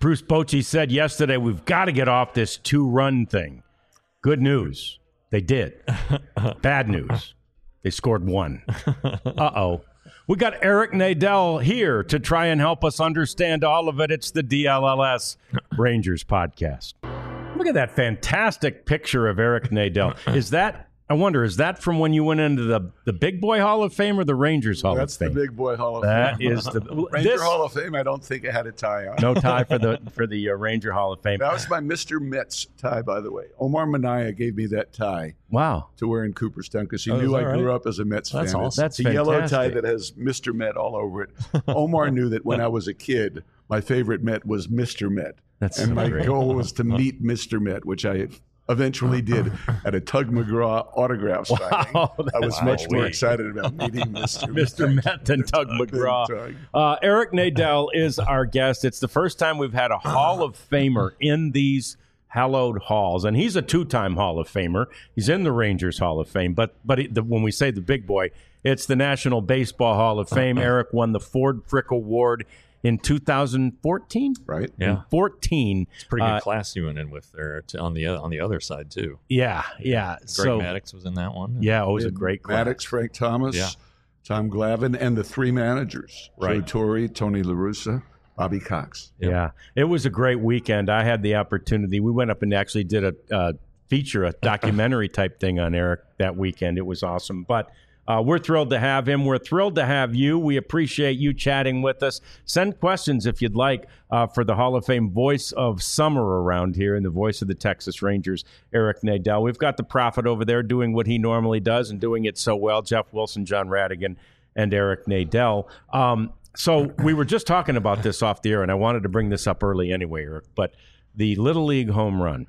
Bruce Bochy said yesterday, we've got to get off this 2-run thing. Good news. They did. Bad news. They scored 1. Uh-oh. We got Eric Nadel here to try and help us understand all of it. It's the DLLS Rangers podcast. Look at that fantastic picture of Eric Nadel. Is that from when you went into the Big Boy Hall of Fame or the Rangers Hall of Fame? That's the Big Boy Hall of That Fame. is the Ranger Hall of Fame. I don't think I had a tie on. No tie for the Ranger Hall of Fame. That was my Mr. Mets tie, by the way. Omar Minaya gave me that tie. Wow. To wear in Cooperstown because he knew I grew up as a Mets fan. That's awesome. That's a yellow tie that has Mr. Met all over it. Omar knew that when I was a kid, my favorite Met was Mr. Met. And my goal was to meet Mr. Met, which I eventually did at a Tug McGraw autograph signing. Wow, I was much more excited about meeting Mr. Met than Tug McGraw. Eric Nadel is our guest. It's the first time we've had a Hall of Famer in these hallowed halls, and he's a 2-time Hall of Famer. He's in the Rangers Hall of Fame, but when we say the big boy, it's the National Baseball Hall of Fame. Eric won the Ford Frick Award in 2014, right? Yeah, 14. It's a pretty good class you went in with there on the other side too. Yeah. Greg Maddux was in that one. Yeah, it was a great class. Maddux, Frank Thomas, Tom Glavine, and the 3 managers: Joe Torre, Tony La Russa, Bobby Cox. Yeah, it was a great weekend. I had the opportunity. We went up and actually did a feature, a documentary type thing on Eric that weekend. It was awesome, but. We're thrilled to have him. We're thrilled to have you. We appreciate you chatting with us. Send questions if you'd like for the Hall of Fame voice of summer around here and the voice of the Texas Rangers, Eric Nadel. We've got the Prophet over there doing what he normally does and doing it so well. Jeff Wilson, John Radigan, and Eric Nadel. So we were just talking about this off the air, and I wanted to bring this up early anyway, Eric, but the Little League home run.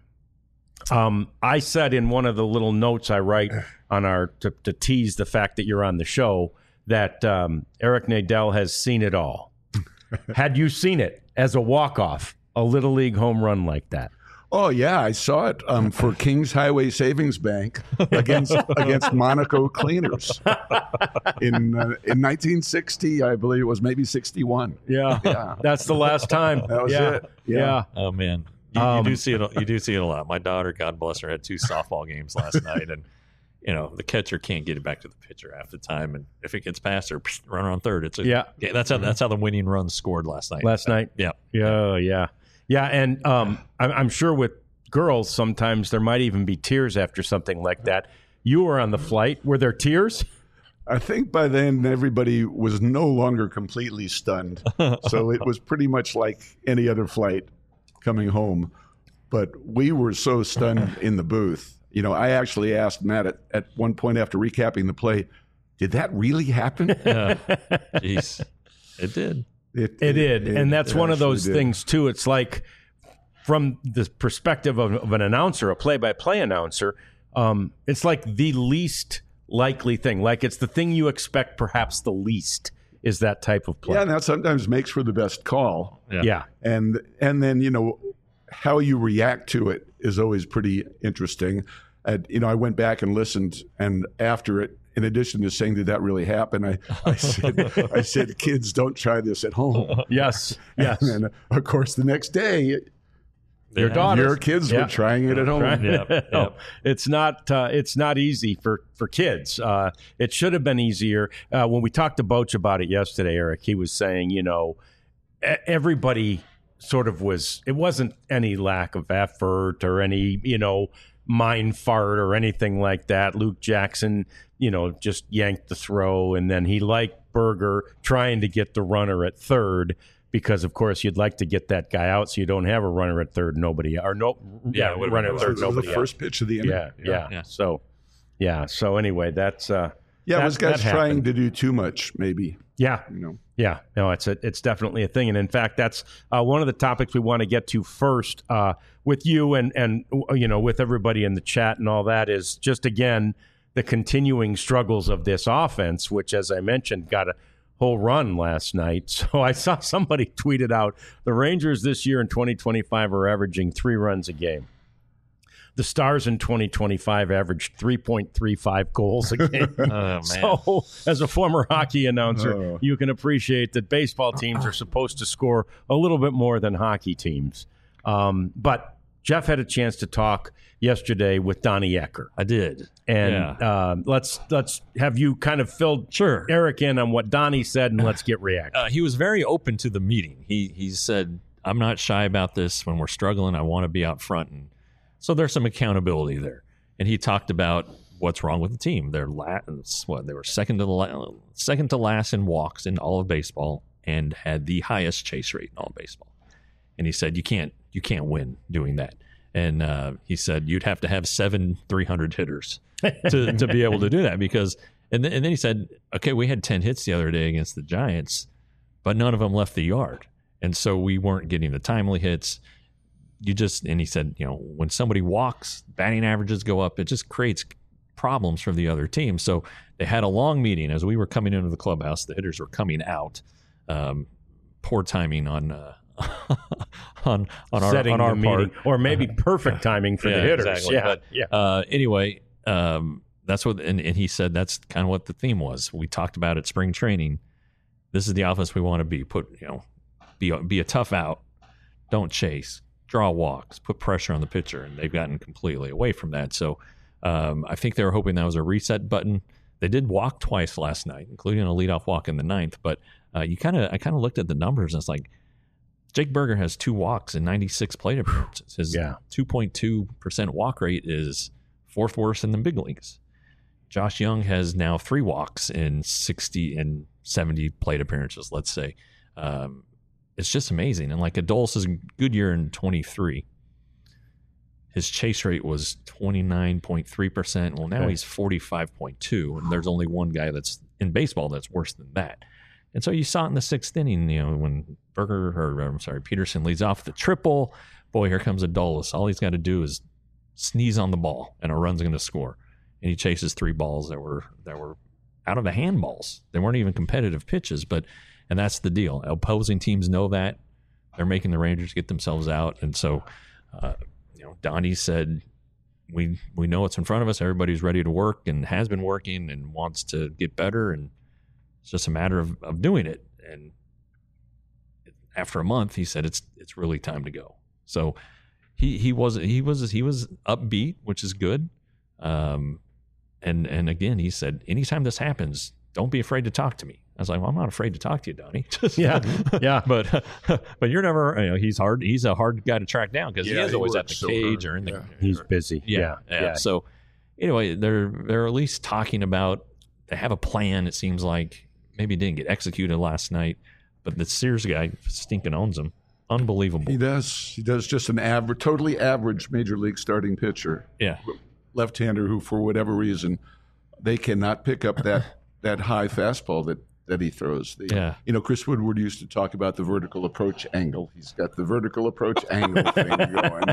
I said in one of the little notes I write on to tease the fact that you're on the show that Eric Nadel has seen it all. Had you seen it as a walk-off, a Little League home run like that? Oh, yeah, I saw it for Kings Highway Savings Bank against Monaco Cleaners in 1960, I believe it was, maybe 61. Yeah. That's the last time. That was it. Yeah. Oh, man. You do see it. You do see it a lot. My daughter, God bless her, had 2 softball games last night, and the catcher can't get it back to the pitcher half the time, and if it gets past her, runner on third. That's how the winning run scored last night. Yeah. And I'm sure with girls sometimes there might even be tears after something like that. You were on the flight. Were there tears? I think by then everybody was no longer completely stunned, so it was pretty much like any other flight coming home, but we were so stunned in the booth. I actually asked Matt at one point after recapping the play, did that really happen? Jeez, it did. It did, and that's one of those things too. It's like from the perspective of an announcer, a play-by-play announcer, it's like the least likely thing. Like it's the thing you expect perhaps the least. Is that type of play. Yeah, and that sometimes makes for the best call. Yeah. And then, how you react to it is always pretty interesting. I went back and listened, and after it, in addition to saying, did that really happen, I said, kids, don't try this at home. Yes. And then, of course, the next day, your kids were trying it at home. No, it's not easy for kids. It should have been easier. When we talked to Boch about it yesterday, Eric, he was saying, everybody sort of was. It wasn't any lack of effort or any mind fart or anything like that. Luke Jackson, just yanked the throw, and then he liked Berger trying to get the runner at third. Because of course you'd like to get that guy out, so you don't have a runner at third, nobody runner at third, nobody. The first pitch of the inning. Yeah. So anyway, that's those guys trying to do too much, maybe. Yeah. No, it's definitely a thing, and in fact, that's one of the topics we want to get to first with you and with everybody in the chat and all that is just again the continuing struggles of this offense, which, as I mentioned, got a whole run last night. So I saw somebody tweeted out the Rangers this year in 2025 are averaging 3 runs a game. the Stars in 2025 averaged 3.35 goals a game. Oh, man. So, as a former hockey announcer, you can appreciate that baseball teams are supposed to score a little bit more than hockey teams. But Jeff had a chance to talk yesterday with Donnie Ecker. I did. And let's have you kind of fill Eric in on what Donnie said, and let's get reaction. He was very open to the meeting. He said, I'm not shy about this. When we're struggling, I want to be out front. And so there's some accountability there. And he talked about what's wrong with the team. They were second to last in walks in all of baseball and had the highest chase rate in all of baseball. And he said, you can't win doing that. And he said you'd have to have 7 300 hitters to be able to do that, because and then he said, okay, we had 10 hits the other day against the Giants, but none of them left the yard. And so we weren't getting the timely hits. And he said, when somebody walks, batting averages go up. It just creates problems for the other team. So they had a long meeting as we were coming into the clubhouse. The hitters were coming out. Poor timing on our part, or maybe perfect timing for the hitters. Exactly. But, anyway, that's what, and he said that's kind of what the theme was. We talked about at spring training. This is the offense we want to be. Be a tough out. Don't chase. Draw walks. Put pressure on the pitcher, and they've gotten completely away from that. So I think they were hoping that was a reset button. They did walk twice last night, including a leadoff walk in the 9th. But I kind of looked at the numbers, and it's like Jake Burger has 2 walks and 96 plate appearances. His 2.2% walk rate is 4th worst in the big leagues. Josh Young has now 3 walks in 60 and 70 plate appearances, let's say. It's just amazing. And like Adolis' good year in 23, his chase rate was 29.3%. Well, now he's 45.2, and there's only one guy that's in baseball that's worse than that. And so you saw it in the 6th inning, when Peterson leads off the triple. Boy, here comes Adolis. All he's got to do is sneeze on the ball, and a run's going to score. And he chases 3 balls that were out of the handballs. They weren't even competitive pitches, and that's the deal. Opposing teams know that. They're making the Rangers get themselves out. And so, Donnie said, we know what's in front of us. Everybody's ready to work and has been working and wants to get better. And it's just a matter of doing it. And after a month, he said, it's really time to go. So he was upbeat, which is good. And again, he said, anytime this happens, don't be afraid to talk to me. I was like, well, I'm not afraid to talk to you, Donnie. yeah. But you're never, he's hard. He's a hard guy to track down because he is always at the cage or in the. He's busy. Yeah. So anyway, they're at least talking about. They have a plan. It seems like maybe it didn't get executed last night, but the Sears guy stinking owns him. Unbelievable. He does. Just an totally average major league starting pitcher. Yeah. Left-hander who, for whatever reason, they cannot pick up that high fastball that he throws. Chris Woodward used to talk about the vertical approach angle. He's got the vertical approach angle thing going.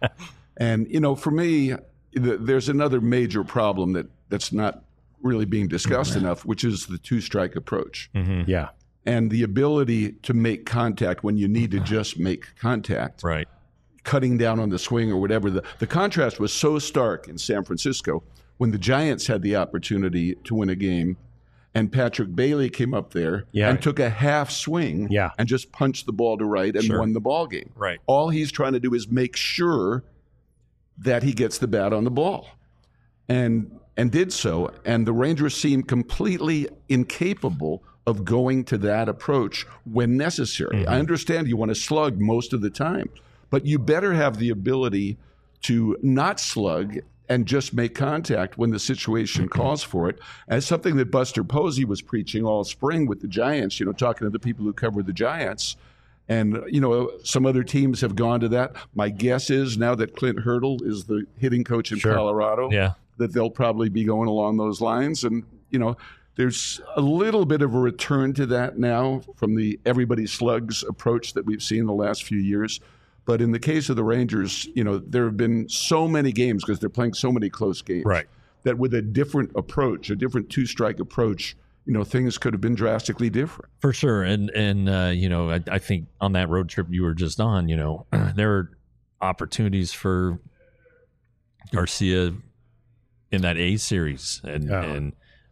And, for me, there's another major problem that's not really being discussed enough, which is the 2-strike approach. Mm-hmm. Yeah. And the ability to make contact when you need to just make contact. Right. Cutting down on the swing or whatever. The contrast was so stark in San Francisco when the Giants had the opportunity to win a game. And Patrick Bailey came up there and took a half swing and just punched the ball to right and won the ball game. Right. All he's trying to do is make sure that he gets the bat on the ball. And did so. And the Rangers seemed completely incapable of going to that approach when necessary. Mm-hmm. I understand you want to slug most of the time, but you better have the ability to not slug and just make contact when the situation calls for it. As something that Buster Posey was preaching all spring with the Giants, talking to the people who cover the Giants. And, some other teams have gone to that. My guess is now that Clint Hurdle is the hitting coach in Colorado, that they'll probably be going along those lines. And, there's a little bit of a return to that now from the everybody slugs approach that we've seen the last few years. But in the case of the Rangers, there have been so many games because they're playing so many close games that with a different approach, a different 2-strike approach, things could have been drastically different. For sure. And I think on that road trip you were just on, there are opportunities for Garcia in that A series, and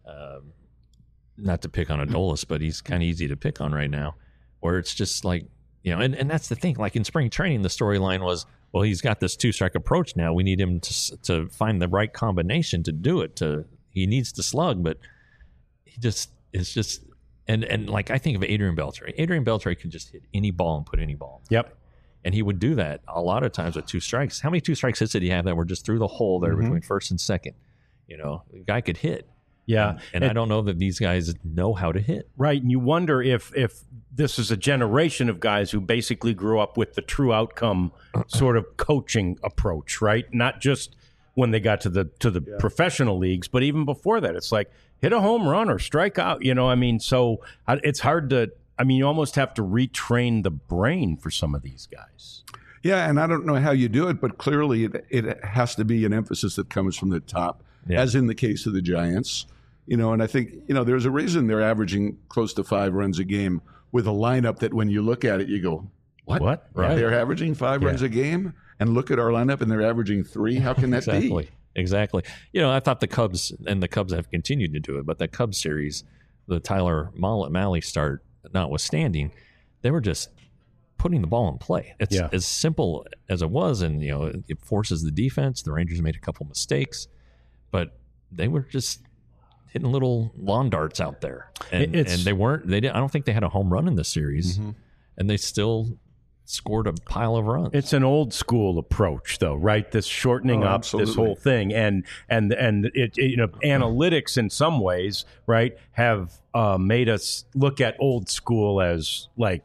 not to pick on Adolis, but he's kind of easy to pick on right now, where it's just like, and that's the thing. Like in spring training, the storyline was, well, he's got this 2-strike approach now. We need him to find the right combination to do it. He needs to slug, but he just is just. And like I think of Adrian Beltre. Adrian Beltre could just hit any ball and put any ball. Yep. And he would do that a lot of times with 2 strikes. How many 2-strike hits did he have that were just through the hole there between first and second? The guy could hit. Yeah. And I don't know that these guys know how to hit. Right. And you wonder if this is a generation of guys who basically grew up with the true outcome sort of coaching approach, right? Not just when they got to the professional leagues, but even before that. It's like, hit a home run or strike out, so it's hard to, you almost have to retrain the brain for some of these guys. Yeah, and I don't know how you do it, but clearly it has to be an emphasis that comes from the top, as in the case of the Giants. And I think, there's a reason they're averaging close to 5 runs a game with a lineup that when you look at it, you go, what? Right. They're averaging 5 runs a game? And look at our lineup and they're averaging 3? How can that be? Exactly. I thought the Cubs have continued to do it, but that Cubs series, the Tyler Mahle start notwithstanding, they were just putting the ball in play. It's as simple as it was, and it forces the defense. The Rangers made a couple mistakes, but they were just hitting little lawn darts out there, and they weren't. They didn't. I don't think they had a home run in this series, and they still scored a pile of runs. It's an old school approach, though, right? This shortening up this whole thing, and it analytics in some ways, right, have made us look at old school as like,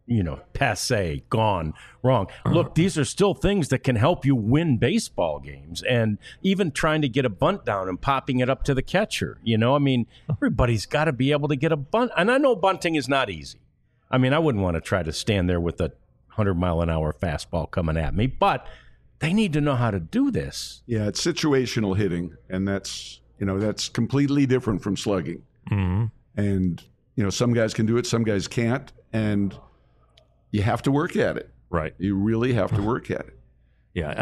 passé, gone, wrong. Look, these are still things that can help you win baseball games, and even trying to get a bunt down and popping it up to the catcher. Everybody's got to be able to get a bunt, and I know bunting is not easy. I wouldn't want to try to stand there with a 100-mile-an-hour fastball coming at me, but they need to know how to do this. Yeah, it's situational hitting, and that's completely different from slugging. And some guys can do it, some guys can't, and you have to work at it. Right, you really have to work at it. Yeah,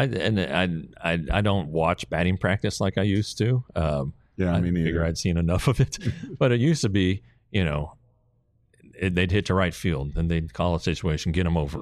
I don't watch batting practice like I used to. I figure I'd seen enough of it, but it used to be, they'd hit to right field, and they'd call a situation, get them over,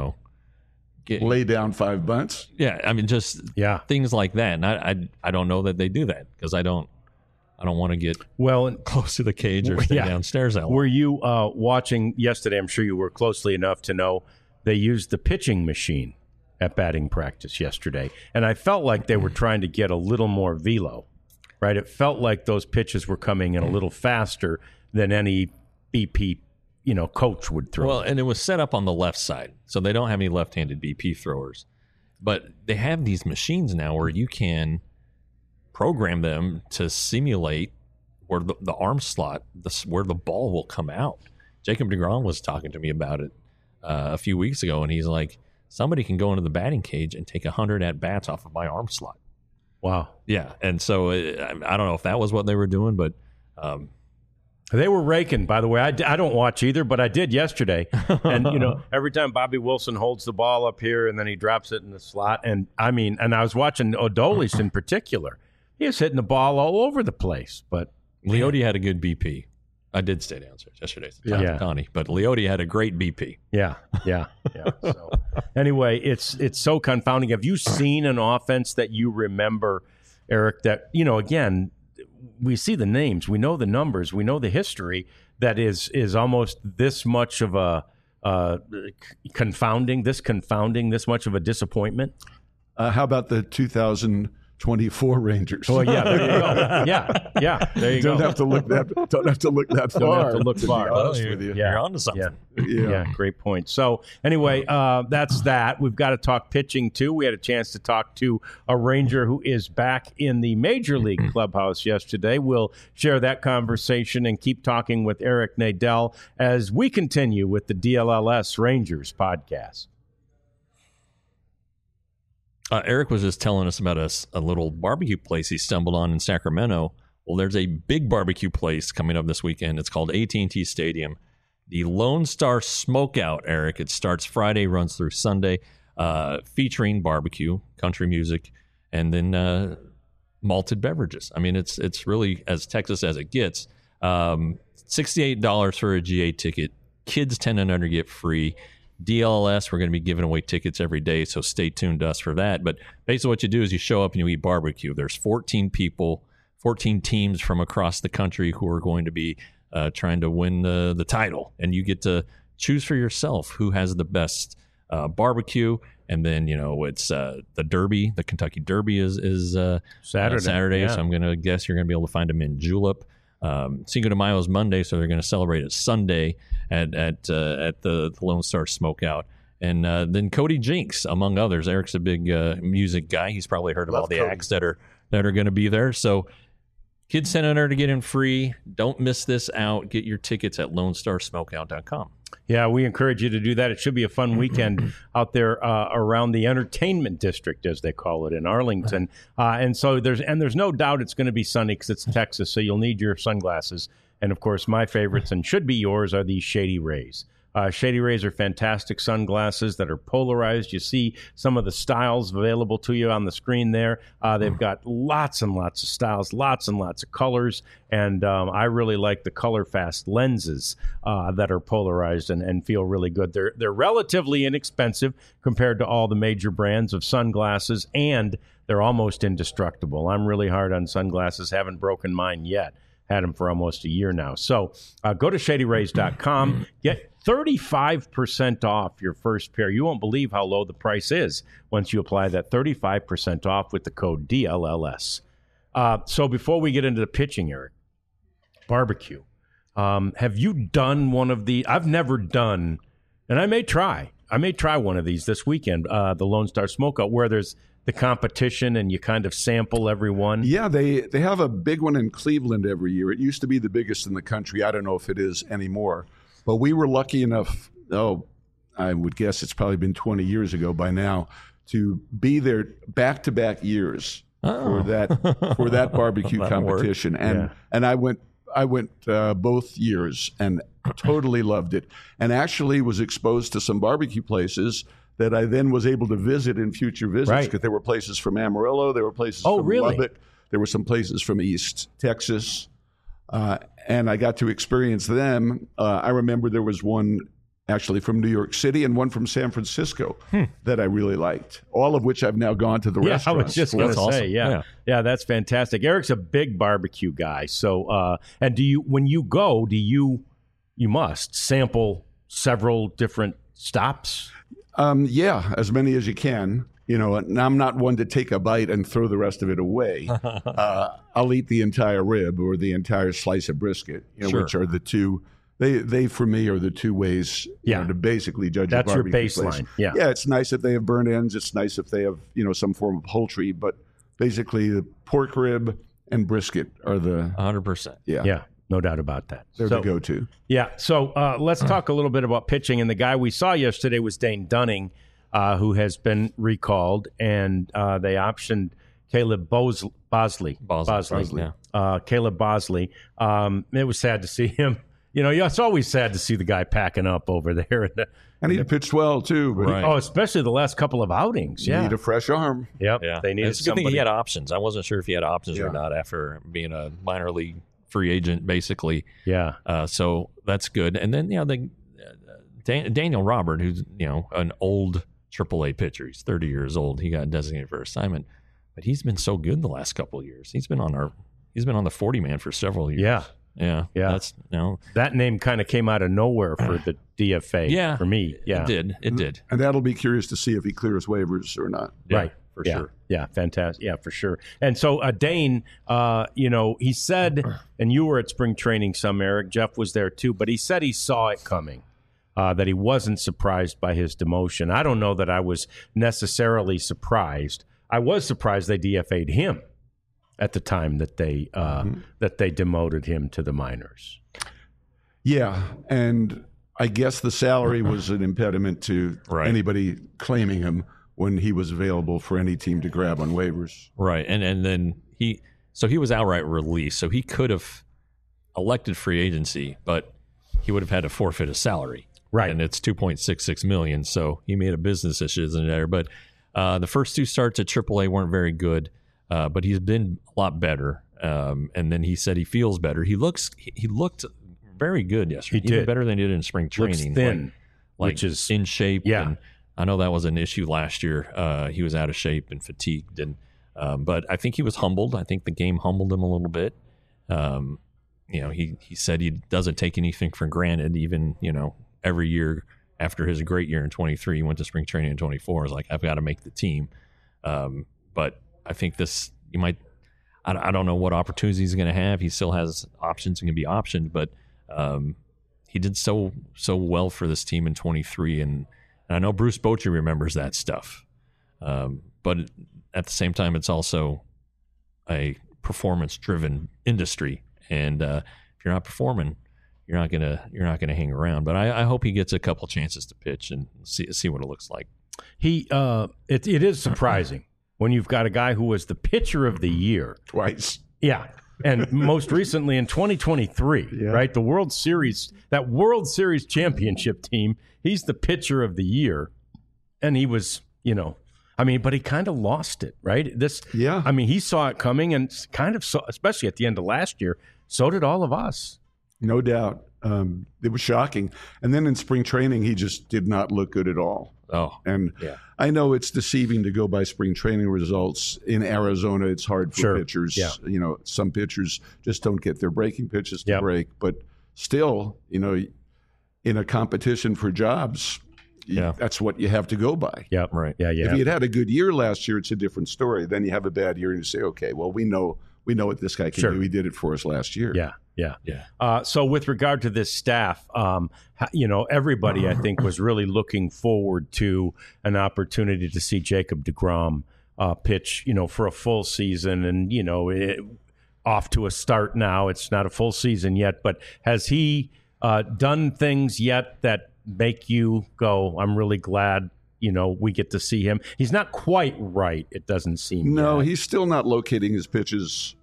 lay down 5 bunts. Yeah, just things like that. And I don't know that they do that because I don't want to get close to the cage or stay downstairs. Were you watching yesterday? I'm sure you were closely enough to know they used the pitching machine at batting practice yesterday, and I felt like they were trying to get a little more velo. Right, it felt like those pitches were coming in a little faster than any BP coach would throw. Well, and it was set up on the left side, so they don't have any left-handed BP throwers. But they have these machines now where you can program them to simulate where the arm slot, where the ball will come out. Jacob deGrom was talking to me about it a few weeks ago, and he's like, somebody can go into the batting cage and take 100 at-bats off of my arm slot. Wow. Yeah, and so I don't know if that was what they were doing, but... They were raking, by the way. I don't watch either, but I did yesterday. And, every time Bobby Wilson holds the ball up here and then he drops it in the slot. And, I was watching Adolis in particular. He was hitting the ball all over the place. But Leote had a good BP. I did stay downstairs yesterday to talk to Connie, but Leote had a great BP. Yeah. So, anyway, it's so confounding. Have you seen an offense that you remember, Eric, that, again, we see the names, we know the numbers, we know the history, that is almost this much of a confounding, this much of a disappointment? How about the 2024 Rangers? Oh yeah, there you go. Yeah, there you don't go. Have to look that far. Don't have to look far. With you. You're onto something. Yeah, great point. So anyway, that's that. We've got to talk pitching too. We had a chance to talk to a Ranger who is back in the Major League clubhouse yesterday. We'll share that conversation and keep talking with Eric Nadel as we continue with the DLLS Rangers podcast. Eric was just telling us about a little barbecue place he stumbled on in Sacramento. Well, there's a big barbecue place coming up this weekend. It's called AT&T Stadium. The Lone Star Smokeout, Eric. It starts Friday, runs through Sunday, featuring barbecue, country music, and then malted beverages. I mean, it's really as Texas as it gets. $68 for a GA ticket. Kids 10 and under get free. DLS, we're going to be giving away tickets every day, so stay tuned to us for that. But basically what you do is you show up and you eat barbecue. There's 14 people, 14 teams from across the country who are going to be trying to win the title. And you get to choose for yourself who has the best barbecue. And then, it's the Derby. The Kentucky Derby is Saturday. Yeah. So I'm going to guess you're going to be able to find them in Julep. Cinco de Mayo is Monday, so they're going to celebrate it Sunday at the Lone Star Smokeout. And then Cody Jinks, among others. Eric's a big music guy. He's probably heard of all the acts that are going to be there. So kids 10 under to get in free. Don't miss this out. Get your tickets at LoneStarSmokeout.com. Yeah, we encourage you to do that. It should be a fun weekend out there around the entertainment district, as they call it, in Arlington. And so there's no doubt it's going to be sunny because it's Texas, so you'll need your sunglasses. And, of course, my favorites, and should be yours, are these Shady Rays. Shady Rays are fantastic sunglasses that are polarized. You see some of the styles available to you on the screen there. They've got lots and lots of styles, lots and lots of colors, and I really like the color fast lenses that are polarized and feel really good. They're relatively inexpensive compared to all the major brands of sunglasses, and they're almost indestructible. I'm really hard on sunglasses, haven't broken mine yet. Had them for almost a year now. So go to ShadyRays.com. Get 35% off your first pair. You won't believe how low the price is once you apply that 35% off with the code DLLS. So before we get into the pitching, Eric, barbecue. Have you done one of the? I've never done, and I may try one of these this weekend, the Lone Star Smokeout, where there's the competition and you kind of sample every one. Yeah, they have a big one in Cleveland every year. It used to be the biggest in the country. I don't know if it is anymore. But we were lucky enough, I would guess it's probably been 20 years ago by now, to be there back-to-back years for that barbecue competition. Work. And I went both years and totally loved it. And actually was exposed to some barbecue places that I then was able to visit in future visits, because there were places from Amarillo, there were places from Lubbock, there were some places from East Texas, and I got to experience them. I remember there was one actually from New York City and one from San Francisco that I really liked, all of which I've now gone to the restaurants. I was just going to say, awesome. Yeah, that's fantastic. Eric's a big barbecue guy. So, and when you go, you must sample several different stops? Yeah, as many as you can. And I'm not one to take a bite and throw the rest of it away. I'll eat the entire rib or the entire slice of brisket, which are the two. They for me are the two ways to basically judge a barbecue That's your baseline. place. Yeah, it's nice if they have burnt ends. It's nice if they have some form of poultry. But basically, the pork rib and brisket are the 100%. Yeah. No doubt about that. They're the go-to. Yeah. So let's talk a little bit about pitching. And the guy we saw yesterday was Dane Dunning, who has been recalled, and they optioned Caleb Bosley. Caleb Bosley. It was sad to see him. It's always sad to see the guy packing up over there. And he pitched well, too. But especially the last couple of outings. Need a fresh arm. Yep. Yeah. They needed it's a good thing he had options. I wasn't sure if he had options or not after being a minor league free agent, basically. Yeah. So that's good. And then, Daniel Robert, who's, an old AAA pitcher. He's 30 years old. He got designated for assignment, but he's been so good the last couple of years. He's been on the 40 man for several years. Yeah. That's that name kind of came out of nowhere for the DFA. For me. Yeah. It did. And that'll be curious to see if he clears waivers or not. Right. For sure. Yeah, fantastic. Yeah, for sure. And so Dane, he said, and you were at spring training some, Eric, Jeff was there too, but he said he saw it coming, that he wasn't surprised by his demotion. I don't know that I was necessarily surprised. I was surprised they DFA'd him at the time that they demoted him to the minors. Yeah, and I guess the salary was an impediment to anybody claiming him when he was available for any team to grab on waivers. Right. And then he was outright released. So he could have elected free agency, but he would have had to forfeit his salary. Right. And it's $2.66 million. So he made a business decision there. But The first 2 starts at AAA weren't very good, but he's been a lot better. And then he said he feels better. He looked very good yesterday. He did. Even better than he did in spring training. Looks thin, which is in shape. Yeah. And I know that was an issue last year. He was out of shape and fatigued, and but I think he was humbled. I think the game humbled him a little bit. He said he doesn't take anything for granted. Even every year after his great year in 23, he went to spring training in 24. Is like, I've got to make the team. But I think I don't know what opportunities he's going to have. He still has options and can be optioned, but he did so well for this team in 23, and I know Bruce Bochy remembers that stuff. But at the same time, it's also a performance-driven industry, and if you're not performing, you're not gonna hang around. But I hope he gets a couple chances to pitch and see what it looks like. It is surprising when you've got a guy who was the pitcher of the year twice. Yeah. And most recently in 2023, right? The World Series championship team, he's the pitcher of the year. And he was, but he kind of lost it, right? He saw it coming and kind of saw, especially at the end of last year, so did all of us. No doubt. It was shocking. And then in spring training, he just did not look good at all. Oh, and I know it's deceiving to go by spring training results. In Arizona, it's hard for pitchers. Yeah. Some pitchers just don't get their breaking pitches to break. But still, in a competition for jobs, that's what you have to go by. Yeah, right. Yeah, yeah. If he had a good year last year, it's a different story. Then you have a bad year and you say, okay, well, we know what this guy can do. He did it for us last year. Yeah. So with regard to this staff, everybody, I think, was really looking forward to an opportunity to see Jacob deGrom pitch, for a full season. And, off to a start now. It's not a full season yet, but has he done things yet that make you go, I'm really glad we get to see him? He's not quite right, it doesn't seem. No, yet. He's still not locating his pitches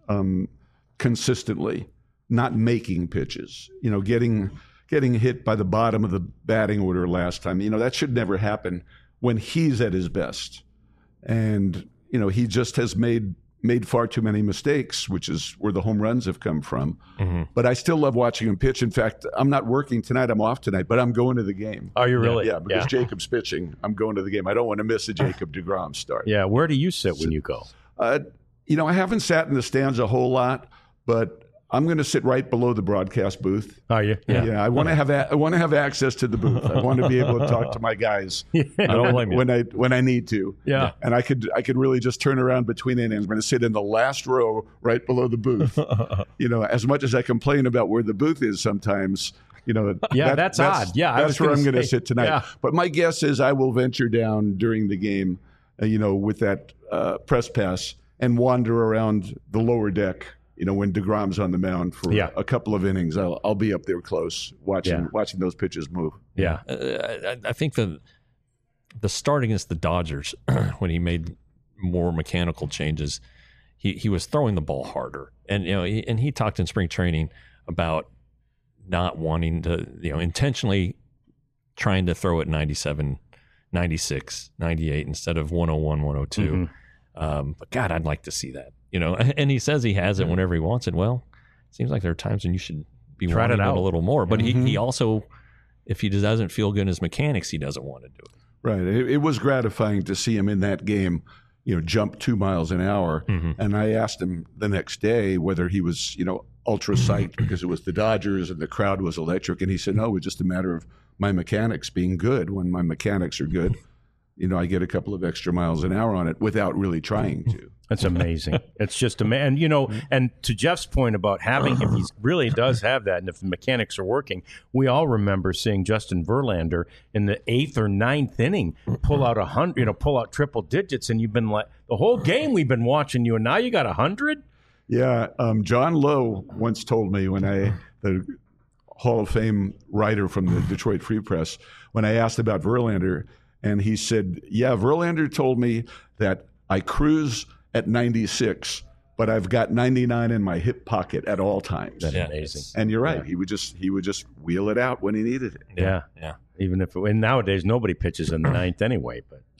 consistently, not making pitches. Getting hit by the bottom of the batting order last time. That should never happen when he's at his best. And, he just has made far too many mistakes, which is where the home runs have come from. Mm-hmm. But I still love watching him pitch. In fact, I'm not working tonight. I'm off tonight, but I'm going to the game. Are you really? Yeah, because Jacob's pitching. I'm going to the game. I don't want to miss a Jacob deGrom start. Yeah, where do you sit when you go? I haven't sat in the stands a whole lot, but I'm going to sit right below the broadcast booth. Are you? Yeah. I want to have access to the booth. I want to be able to talk to my guys when I need to. Yeah. And I could really just turn around between innings. I'm going to sit in the last row right below the booth. As much as I complain about where the booth is sometimes, that's odd. Yeah, that's where I'm going to sit tonight. Yeah. But my guess is I will venture down during the game, with that press pass and wander around the lower deck. When deGrom's on the mound for a couple of innings, I'll be up there close watching those pitches move. Yeah, I think the start against the Dodgers when he made more mechanical changes, he was throwing the ball harder, and he talked in spring training about not wanting to intentionally trying to throw it 97, 96, 98 instead of 101, 102. Mm-hmm. But God, I'd like to see that. And he says he has it whenever he wants it. Well, it seems like there are times when you should be wanting it a little more. But he also, if he doesn't feel good in his mechanics, he doesn't want to do it. Right. It was gratifying to see him in that game, jump 2 miles an hour. Mm-hmm. And I asked him the next day whether he was, ultra psyched because it was the Dodgers and the crowd was electric. And he said, no, it was just a matter of my mechanics being good. When my mechanics are good, I get a couple of extra miles an hour on it without really trying to. That's amazing. It's just amazing. And to Jeff's point about if he really does have that, and if the mechanics are working, we all remember seeing Justin Verlander in the 8th or 9th inning pull out 100, pull out triple digits, and you've been like, the whole game we've been watching you, and now you got 100? Yeah. John Lowe once told me the Hall of Fame writer from the Detroit Free Press, when I asked about Verlander, and he said, Verlander told me that I cruise at 96, but I've got 99 in my hip pocket at all times. That's amazing. And you're right. Yeah. He would just wheel it out when he needed it. Yeah. Even if and nowadays nobody pitches in the 9th anyway. But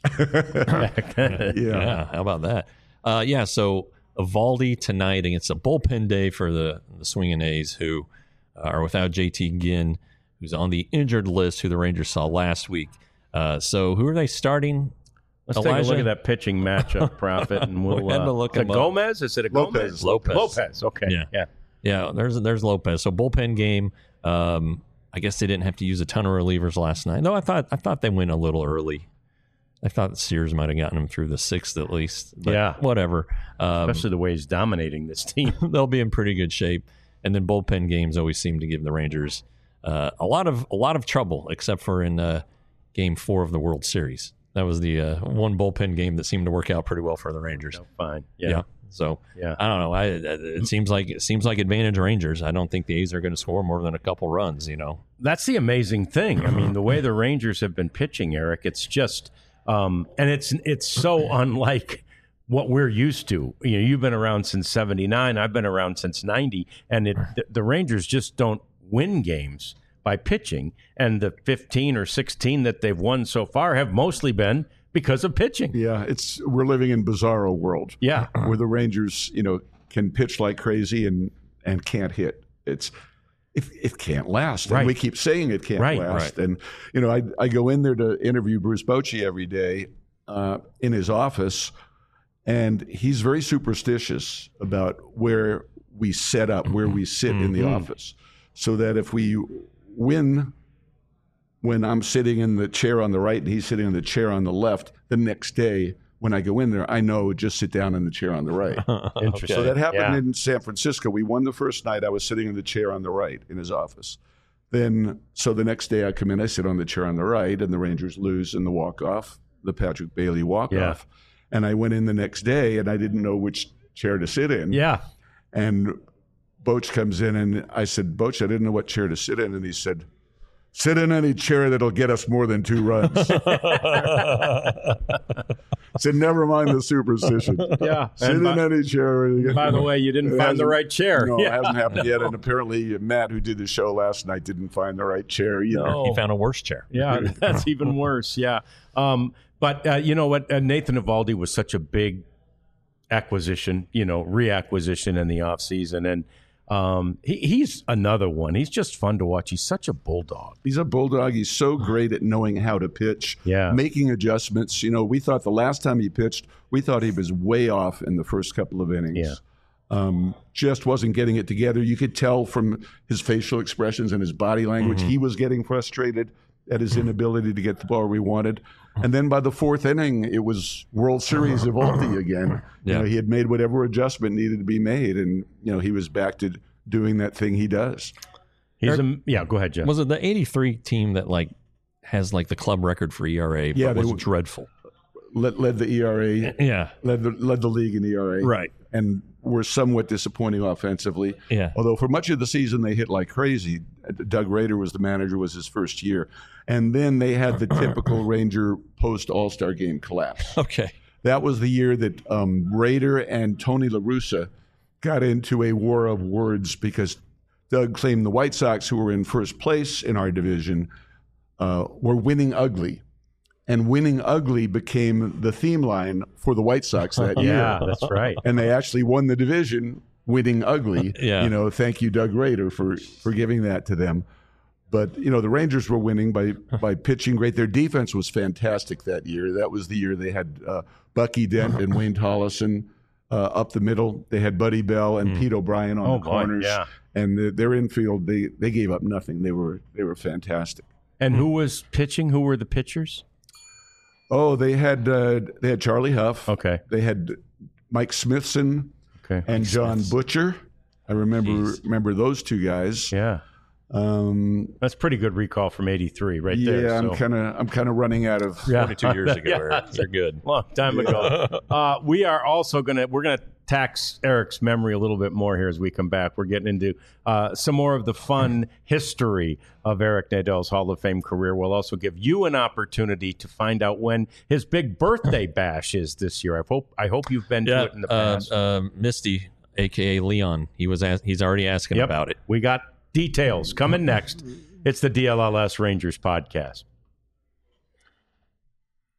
Yeah, how about that? So Eovaldi tonight against a bullpen day for the Swinging A's, who are without JT Ginn, who's on the injured list, who the Rangers saw last week. So who are they starting? Let's take a look at that pitching matchup, Prophet, and we'll look at Gomez. Is it a Gomez? Lopez. Okay. Yeah. There's Lopez. So bullpen game. I guess they didn't have to use a ton of relievers last night. No, I thought they went a little early. I thought Sears might have gotten him through the sixth at least. But whatever. Especially the way he's dominating this team. They'll be in pretty good shape. And then bullpen games always seem to give the Rangers a lot of trouble, except for in Game 4 of the World Series. That was the one bullpen game that seemed to work out pretty well for the Rangers. Fine. So I don't know. It seems like advantage Rangers. I don't think the A's are going to score more than a couple runs. That's the amazing thing. I mean, the way the Rangers have been pitching, Eric, it's just and it's so unlike what we're used to. You've been around since '79. I've been around since '90, and the Rangers just don't win games by pitching. And the 15 or 16 that they've won so far have mostly been because of pitching. Yeah, we're living in bizarro world. Yeah, where the Rangers, can pitch like crazy and can't hit. It can't last. Right. And we keep saying it can't last. Right. And I go in there to interview Bruce Bochy every day in his office, and he's very superstitious about where we set up, where we sit in the office, so that if we win when I'm sitting in the chair on the right and he's sitting in the chair on the left, the next day when I go in there, I know just sit down in the chair on the right. Interesting. So that happened in San Francisco. We won the first night. I was sitting in the chair on the right in his office. So the next day I come in, I sit on the chair on the right, and the Rangers lose in the walk-off, the Patrick Bailey walk-off. Yeah. And I went in the next day, and I didn't know which chair to sit in. Yeah. And Boch comes in, and I said, Boch, I didn't know what chair to sit in. And he said, sit in any chair that'll get us more than 2 runs. I said, never mind the superstition. Yeah. Sit in any chair. By the way, you didn't find the right chair. No, it hasn't happened yet. And apparently Matt, who did the show last night, didn't find the right chair either. No. He found a worse chair. Yeah, that's even worse. Yeah. But you know what? Nathan Eovaldi was such a big acquisition, reacquisition in the offseason. And he's another one. He's just fun to watch. He's such a bulldog. He's a bulldog. He's so great at knowing how to pitch, making adjustments. We thought the last time he pitched, we thought he was way off in the first couple of innings. Yeah. Just wasn't getting it together. You could tell from his facial expressions and his body language, he was getting frustrated at his inability to get the ball where he wanted. And then by the 4th inning, it was World Series Eovaldi again. Yeah. He had made whatever adjustment needed to be made, and he was back to doing that thing he does. Go ahead, Jeff. Was it the '83 team that has the club record for ERA? Yeah, but was dreadful. Led the ERA. Yeah, led the league in ERA. Right, and were somewhat disappointing offensively. Yeah, although for much of the season they hit like crazy. Doug Rader was the manager. Was his first year, and then they had the typical Ranger post All-Star game collapse. Okay, that was the year that Rader and Tony La Russa got into a war of words because Doug claimed the White Sox, who were in first place in our division, were winning ugly. And winning ugly became the theme line for the White Sox that year. Yeah, that's right. And they actually won the division winning ugly. Yeah. Thank you, Doug Rader, for giving that to them. But, the Rangers were winning by pitching great. Their defense was fantastic that year. That was the year they had Bucky Dent and Wayne Tollison up the middle. They had Buddy Bell and Pete O'Brien on the corners. Yeah. And their infield, they gave up nothing. They were fantastic. And who was pitching? Who were the pitchers? Oh, they had Charlie Huff. Okay. They had Mike Smithson. Okay. And John Butcher. I remember those two guys. Yeah. That's pretty good recall from '83, right there. Yeah, I'm kind of running out of 22 years ago. They're good. Long time ago. We are also gonna tax Eric's memory a little bit more here as we come back. We're getting into some more of the fun history of Eric Nadol's Hall of Fame career. We'll also give you an opportunity to find out when his big birthday bash is this year. I hope you've been to it in the past. Misty, a.k.a. Leon, he's already asking about it. We got details coming next. It's the DLLS Rangers podcast.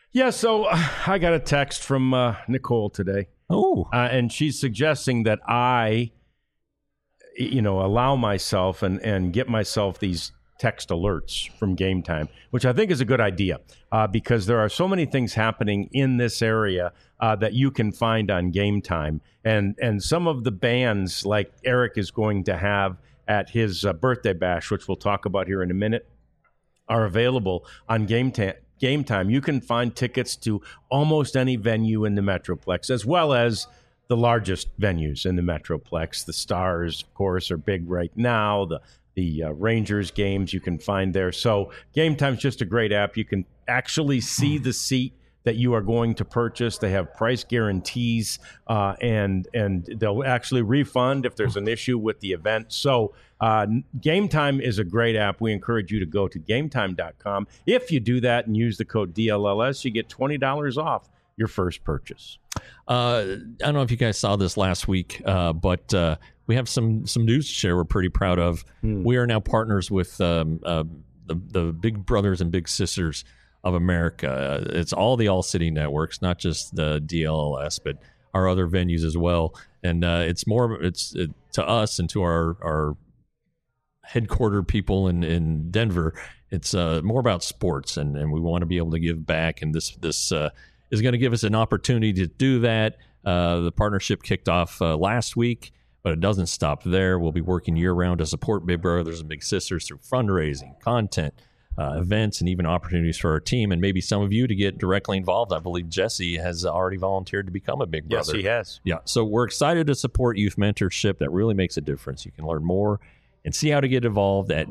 Yeah, so I got a text from Nicole today. Oh. And she's suggesting that I, allow myself and get myself these text alerts from Game Time, which I think is a good idea because there are so many things happening in this area that you can find on Game Time. And some of the bands like Eric is going to have at his birthday bash, which we'll talk about here in a minute, are available on Game Time. You can find tickets to almost any venue in the Metroplex, as well as the largest venues in the Metroplex. The Stars, of course, are big right now. The Rangers games you can find there. So Game Time's just a great app. You can actually see the seat that you are going to purchase. They have price guarantees, and they'll actually refund if there's an issue with the event. So Game Time is a great app. We encourage you to go to GameTime.com. If you do that and use the code DLLS, you get $20 off your first purchase. I don't know if you guys saw this last week, but we have some news to share we're pretty proud of. We are now partners with the Big Brothers and Big Sisters of America. It's all the All City networks, not just the DLLS, but our other venues as well. And it's to us and to our headquartered people in Denver. It's more about sports, and we want to be able to give back. And this is going to give us an opportunity to do that. The partnership kicked off last week, but it doesn't stop there. We'll be working year-round to support Big Brothers and Big Sisters through fundraising, content, events, and even opportunities for our team, and maybe some of you to get directly involved. I believe Jesse has already volunteered to become a Big Brother. Yes, he has. Yeah, so we're excited to support youth mentorship. That really makes a difference. You can learn more and see how to get involved at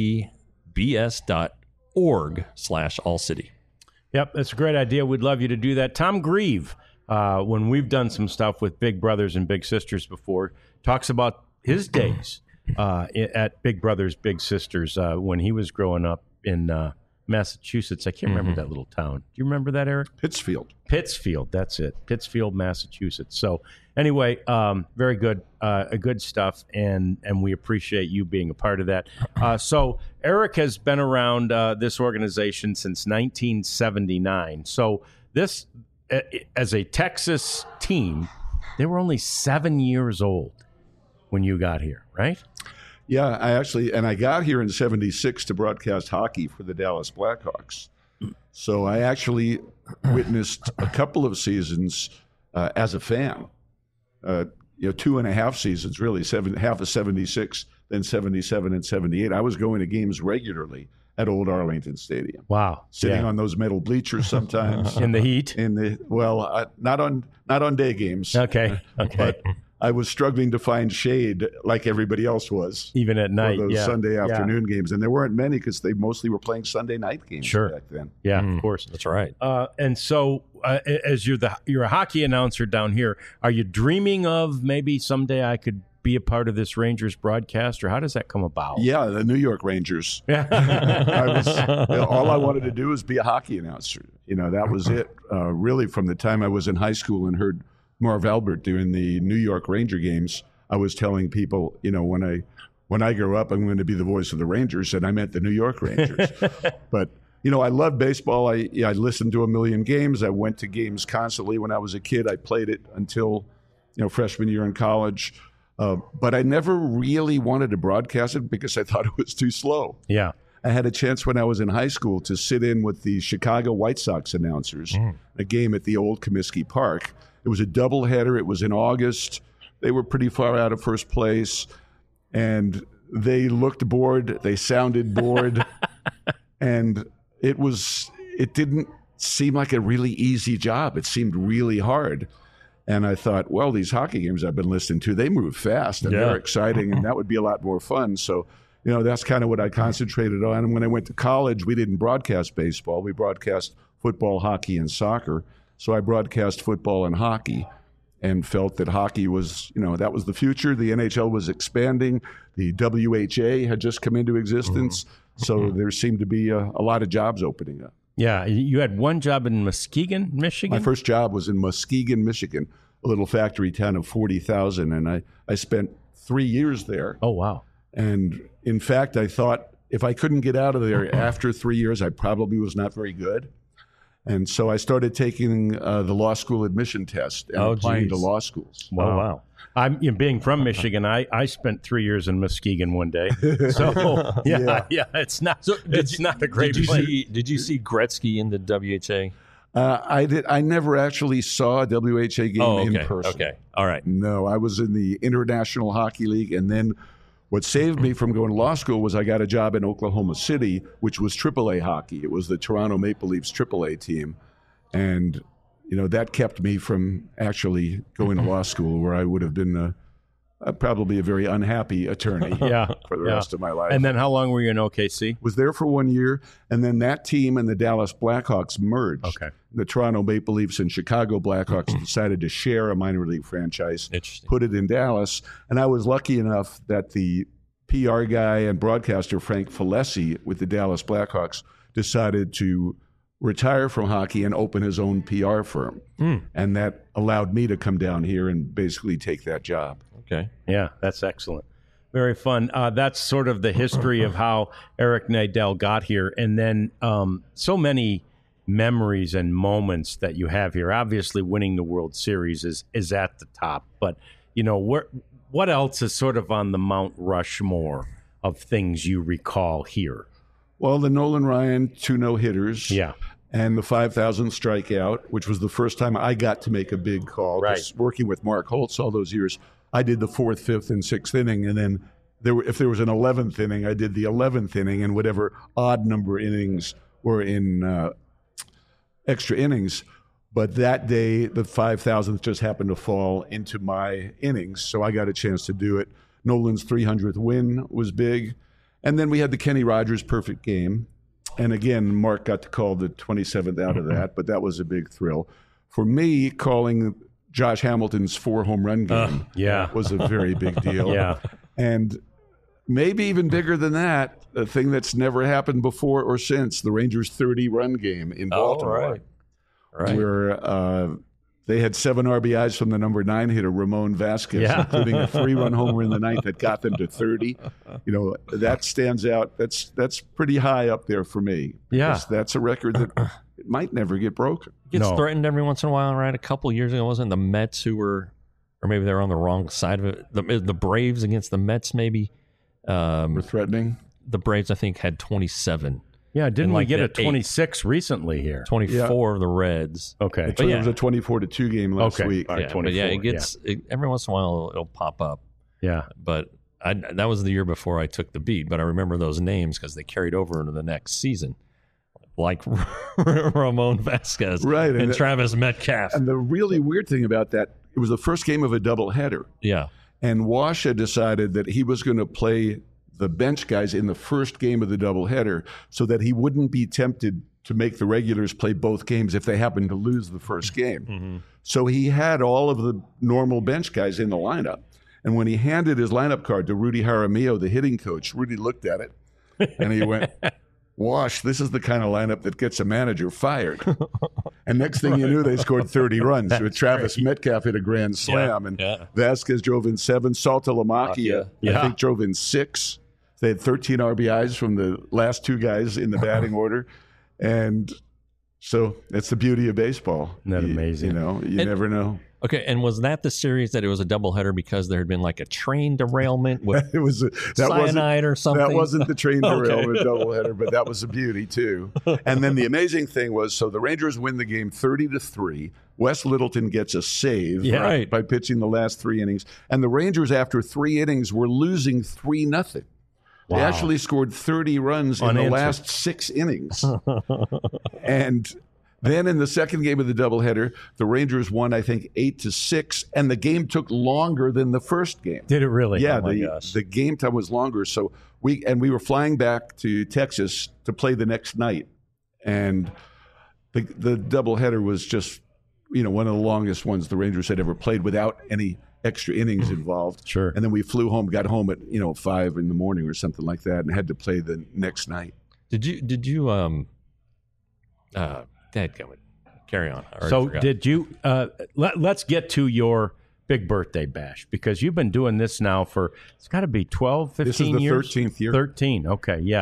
bbs.org/allcity. Yep, that's a great idea. We'd love you to do that. Tom Grieve, when we've done some stuff with Big Brothers and Big Sisters before, talks about his days at Big Brothers, Big Sisters when he was growing up in Massachusetts. I can't remember that little town. Do you remember that, Eric? Pittsfield, that's it. Pittsfield, Massachusetts. So anyway, very good, good stuff, and we appreciate you being a part of that. So Eric has been around this organization since 1979. So this, as a Texas team, they were only 7 years old when you got here, right? Yeah, I got here in '76 to broadcast hockey for the Dallas Blackhawks. So I actually witnessed a couple of seasons as a fan. 2.5 seasons, really, half of '76, then '77 and '78. I was going to games regularly at Old Arlington Stadium. Wow, sitting on those metal bleachers sometimes in the heat. Not on day games. Okay. But I was struggling to find shade like everybody else was. Even at night, for those Sunday afternoon games. And there weren't many because they mostly were playing Sunday night games back then. Yeah, of course. That's right. And so as you're a hockey announcer down here, are you dreaming of maybe someday I could be a part of this Rangers broadcast, or how does that come about? Yeah, the New York Rangers. All I wanted to do was be a hockey announcer. That was it. Really, from the time I was in high school and heard Marv Albert doing the New York Ranger games, I was telling people, when I grow up, I'm going to be the voice of the Rangers, and I meant the New York Rangers. But I love baseball. I listened to a million games. I went to games constantly when I was a kid. I played it until freshman year in college. But I never really wanted to broadcast it because I thought it was too slow. Yeah. I had a chance when I was in high school to sit in with the Chicago White Sox announcers, a game at the old Comiskey Park. It was a doubleheader. It was in August. They were pretty far out of first place, and they looked bored. They sounded bored, and it didn't seem like a really easy job. It seemed really hard. And I thought, well, these hockey games I've been listening to, they move fast and they're exciting, and that would be a lot more fun. So, that's kind of what I concentrated on. And when I went to college, we didn't broadcast baseball. We broadcast football, hockey, and soccer. So I broadcast football and hockey and felt that hockey was, that was the future. The NHL was expanding. The WHA had just come into existence. So there seemed to be a lot of jobs opening up. Yeah. You had one job in Muskegon, Michigan? My first job was in Muskegon, Michigan, a little factory town of 40,000. And I spent 3 years there. Oh, wow. And in fact, I thought if I couldn't get out of there after 3 years, I probably was not very good. And so I started taking the law school admission test and applying to law schools. Wow. Oh, wow. I'm being from Michigan. I spent 3 years in Muskegon one day. So yeah, it's not a great place. Did you see Gretzky in the WHA? I did. I never actually saw a WHA game in person. Okay, all right. No, I was in the International Hockey League, and then what saved me from going to law school was I got a job in Oklahoma City, which was AAA hockey. It was the Toronto Maple Leafs AAA team, and that kept me from actually going to law school, where I would have been probably a very unhappy attorney for the rest of my life. And then how long were you in OKC? Was there for 1 year, and then that team and the Dallas Blackhawks merged. Okay. The Toronto Maple Leafs and Chicago Blackhawks decided to share a minor league franchise, put it in Dallas, and I was lucky enough that the PR guy and broadcaster Frank Falesi with the Dallas Blackhawks decided to retire from hockey and open his own PR firm. And that allowed me to come down here and basically take that job. Okay. Yeah, that's excellent. Very fun. That's sort of the history of how Eric Nadel got here. And then so many memories and moments that you have here. Obviously, winning the World Series is at the top. But, what else is sort of on the Mount Rushmore of things you recall here? Well, the Nolan Ryan 2 no-hitters. Yeah. And the 5,000 strikeout, which was the first time I got to make a big call. Right. Working with Mark Holtz all those years, I did the 4th, 5th, and 6th inning. And then if there was an 11th inning, I did the 11th inning, and whatever odd number innings were in extra innings. But that day, the 5,000th just happened to fall into my innings, so I got a chance to do it. Nolan's 300th win was big. And then we had the Kenny Rogers perfect game. And again, Mark got to call the 27th out of that, but that was a big thrill. For me, calling Josh Hamilton's 4 home run game was a very big deal. Yeah. And maybe even bigger than that, a thing that's never happened before or since, the Rangers' 30-run game in Baltimore. Right. Where they had 7 RBIs from the number 9 hitter, Ramon Vasquez, including a 3-run homer in the 9th that got them to 30. That stands out. That's pretty high up there for me. Yeah. That's a record that it might never get broken. It gets threatened every once in a while, right? A couple of years ago, wasn't it the Mets who were, or maybe they were on the wrong side of it. The Braves against the Mets, maybe. Were threatening? The Braves, I think, had 27. Yeah, didn't we get a 26 recently here? 24 of the Reds. Okay. It was a 24-2 game last week. All right, 24. But it gets every once in a while it'll pop up. Yeah. But that was the year before I took the beat. But I remember those names because they carried over into the next season, like Ramon Vasquez and Travis Metcalf. And the really weird thing about that, it was the first game of a doubleheader. Yeah. And Washa decided that he was going to play the bench guys in the first game of the doubleheader so that he wouldn't be tempted to make the regulars play both games if they happened to lose the first game. Mm-hmm. So he had all of the normal bench guys in the lineup. And when he handed his lineup card to Rudy Jaramillo, the hitting coach, Rudy looked at it and he went, Wash, this is the kind of lineup that gets a manager fired. And next thing you knew, they scored 30 runs. With Travis Metcalf hit a grand slam, and Vasquez drove in 7. Saltalamacchia, I think, drove in 6. They had 13 RBIs from the last 2 guys in the batting order. And so that's the beauty of baseball. Isn't that amazing? You never know. Okay, and was that the series that it was a doubleheader because there had been like a train derailment with cyanide or something? That wasn't the train derailment doubleheader, but that was a beauty too. And then the amazing thing was, so the Rangers win the game 30-3. Wes Littleton gets a save by pitching the last 3 innings. And the Rangers, after 3 innings, were losing 3-0. Wow. They actually scored 30 runs in the last 6 innings. And then in the second game of the doubleheader, the Rangers won, I think, 8-6, and the game took longer than the first game. Did it really? Yeah, the game time was longer. So we were flying back to Texas to play the next night, and the doubleheader was just one of the longest ones the Rangers had ever played without any extra innings involved. Sure. And then we flew home, got home at 5 in the morning or something like that, and had to play the next night. Did you carry on. So did you let's get to your big birthday bash, because you've been doing this now for, it's got to be 12, 15 years? This is the 13th year. 13, okay, yeah.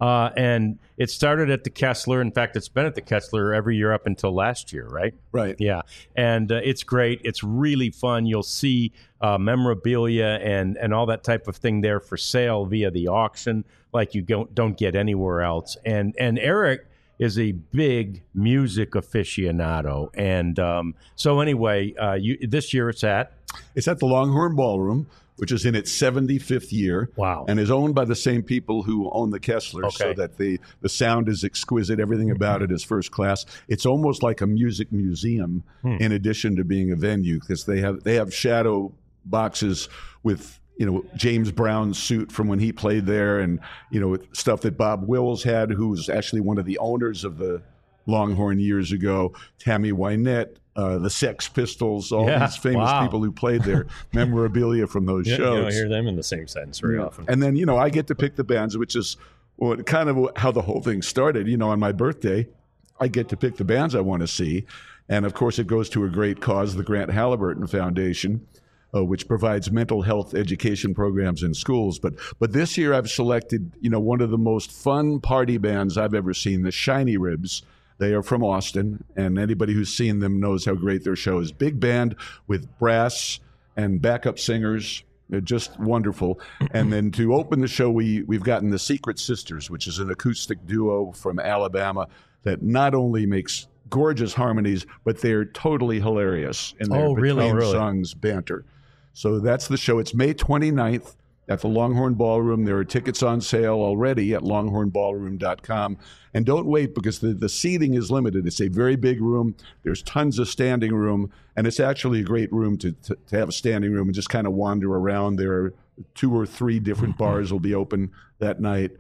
And it started at the Kessler. In fact, it's been at the Kessler every year up until last year, right? Right. Yeah. And it's great. It's really fun. You'll see memorabilia and all that type of thing there for sale via the auction like you don't get anywhere else. And Eric is a big music aficionado. And so anyway, this year it's at the Longhorn Ballroom, which is in its 75th year. Wow. And is owned by the same people who own the Kessler, so that the sound is exquisite. Everything about it is first class. It's almost like a music museum in addition to being a venue, because they have shadow boxes with, James Brown's suit from when he played there, and, stuff that Bob Wills had, who was actually one of the owners of the Longhorn years ago, Tammy Wynette, the Sex Pistols, all these famous people who played there, memorabilia from those shows. You don't hear them in the same sentence very often. And then, I get to pick the bands, which is kind of how the whole thing started. On my birthday, I get to pick the bands I want to see. And, of course, it goes to a great cause, the Grant Halliburton Foundation, which provides mental health education programs in schools. But this year I've selected, one of the most fun party bands I've ever seen, the Shiny Ribs. They are from Austin, and anybody who's seen them knows how great their show is. Big band with brass and backup singers. They're just wonderful. And then to open the show, we've gotten the Secret Sisters, which is an acoustic duo from Alabama that not only makes gorgeous harmonies, but they're totally hilarious in their between songs banter. So that's the show. It's May 29th at the Longhorn Ballroom. There are tickets on sale already at longhornballroom.com. And don't wait, because the seating is limited. It's a very big room. There's tons of standing room. And it's actually a great room to have a standing room and just kind of wander around. There are 2 or 3 different bars will be open that night.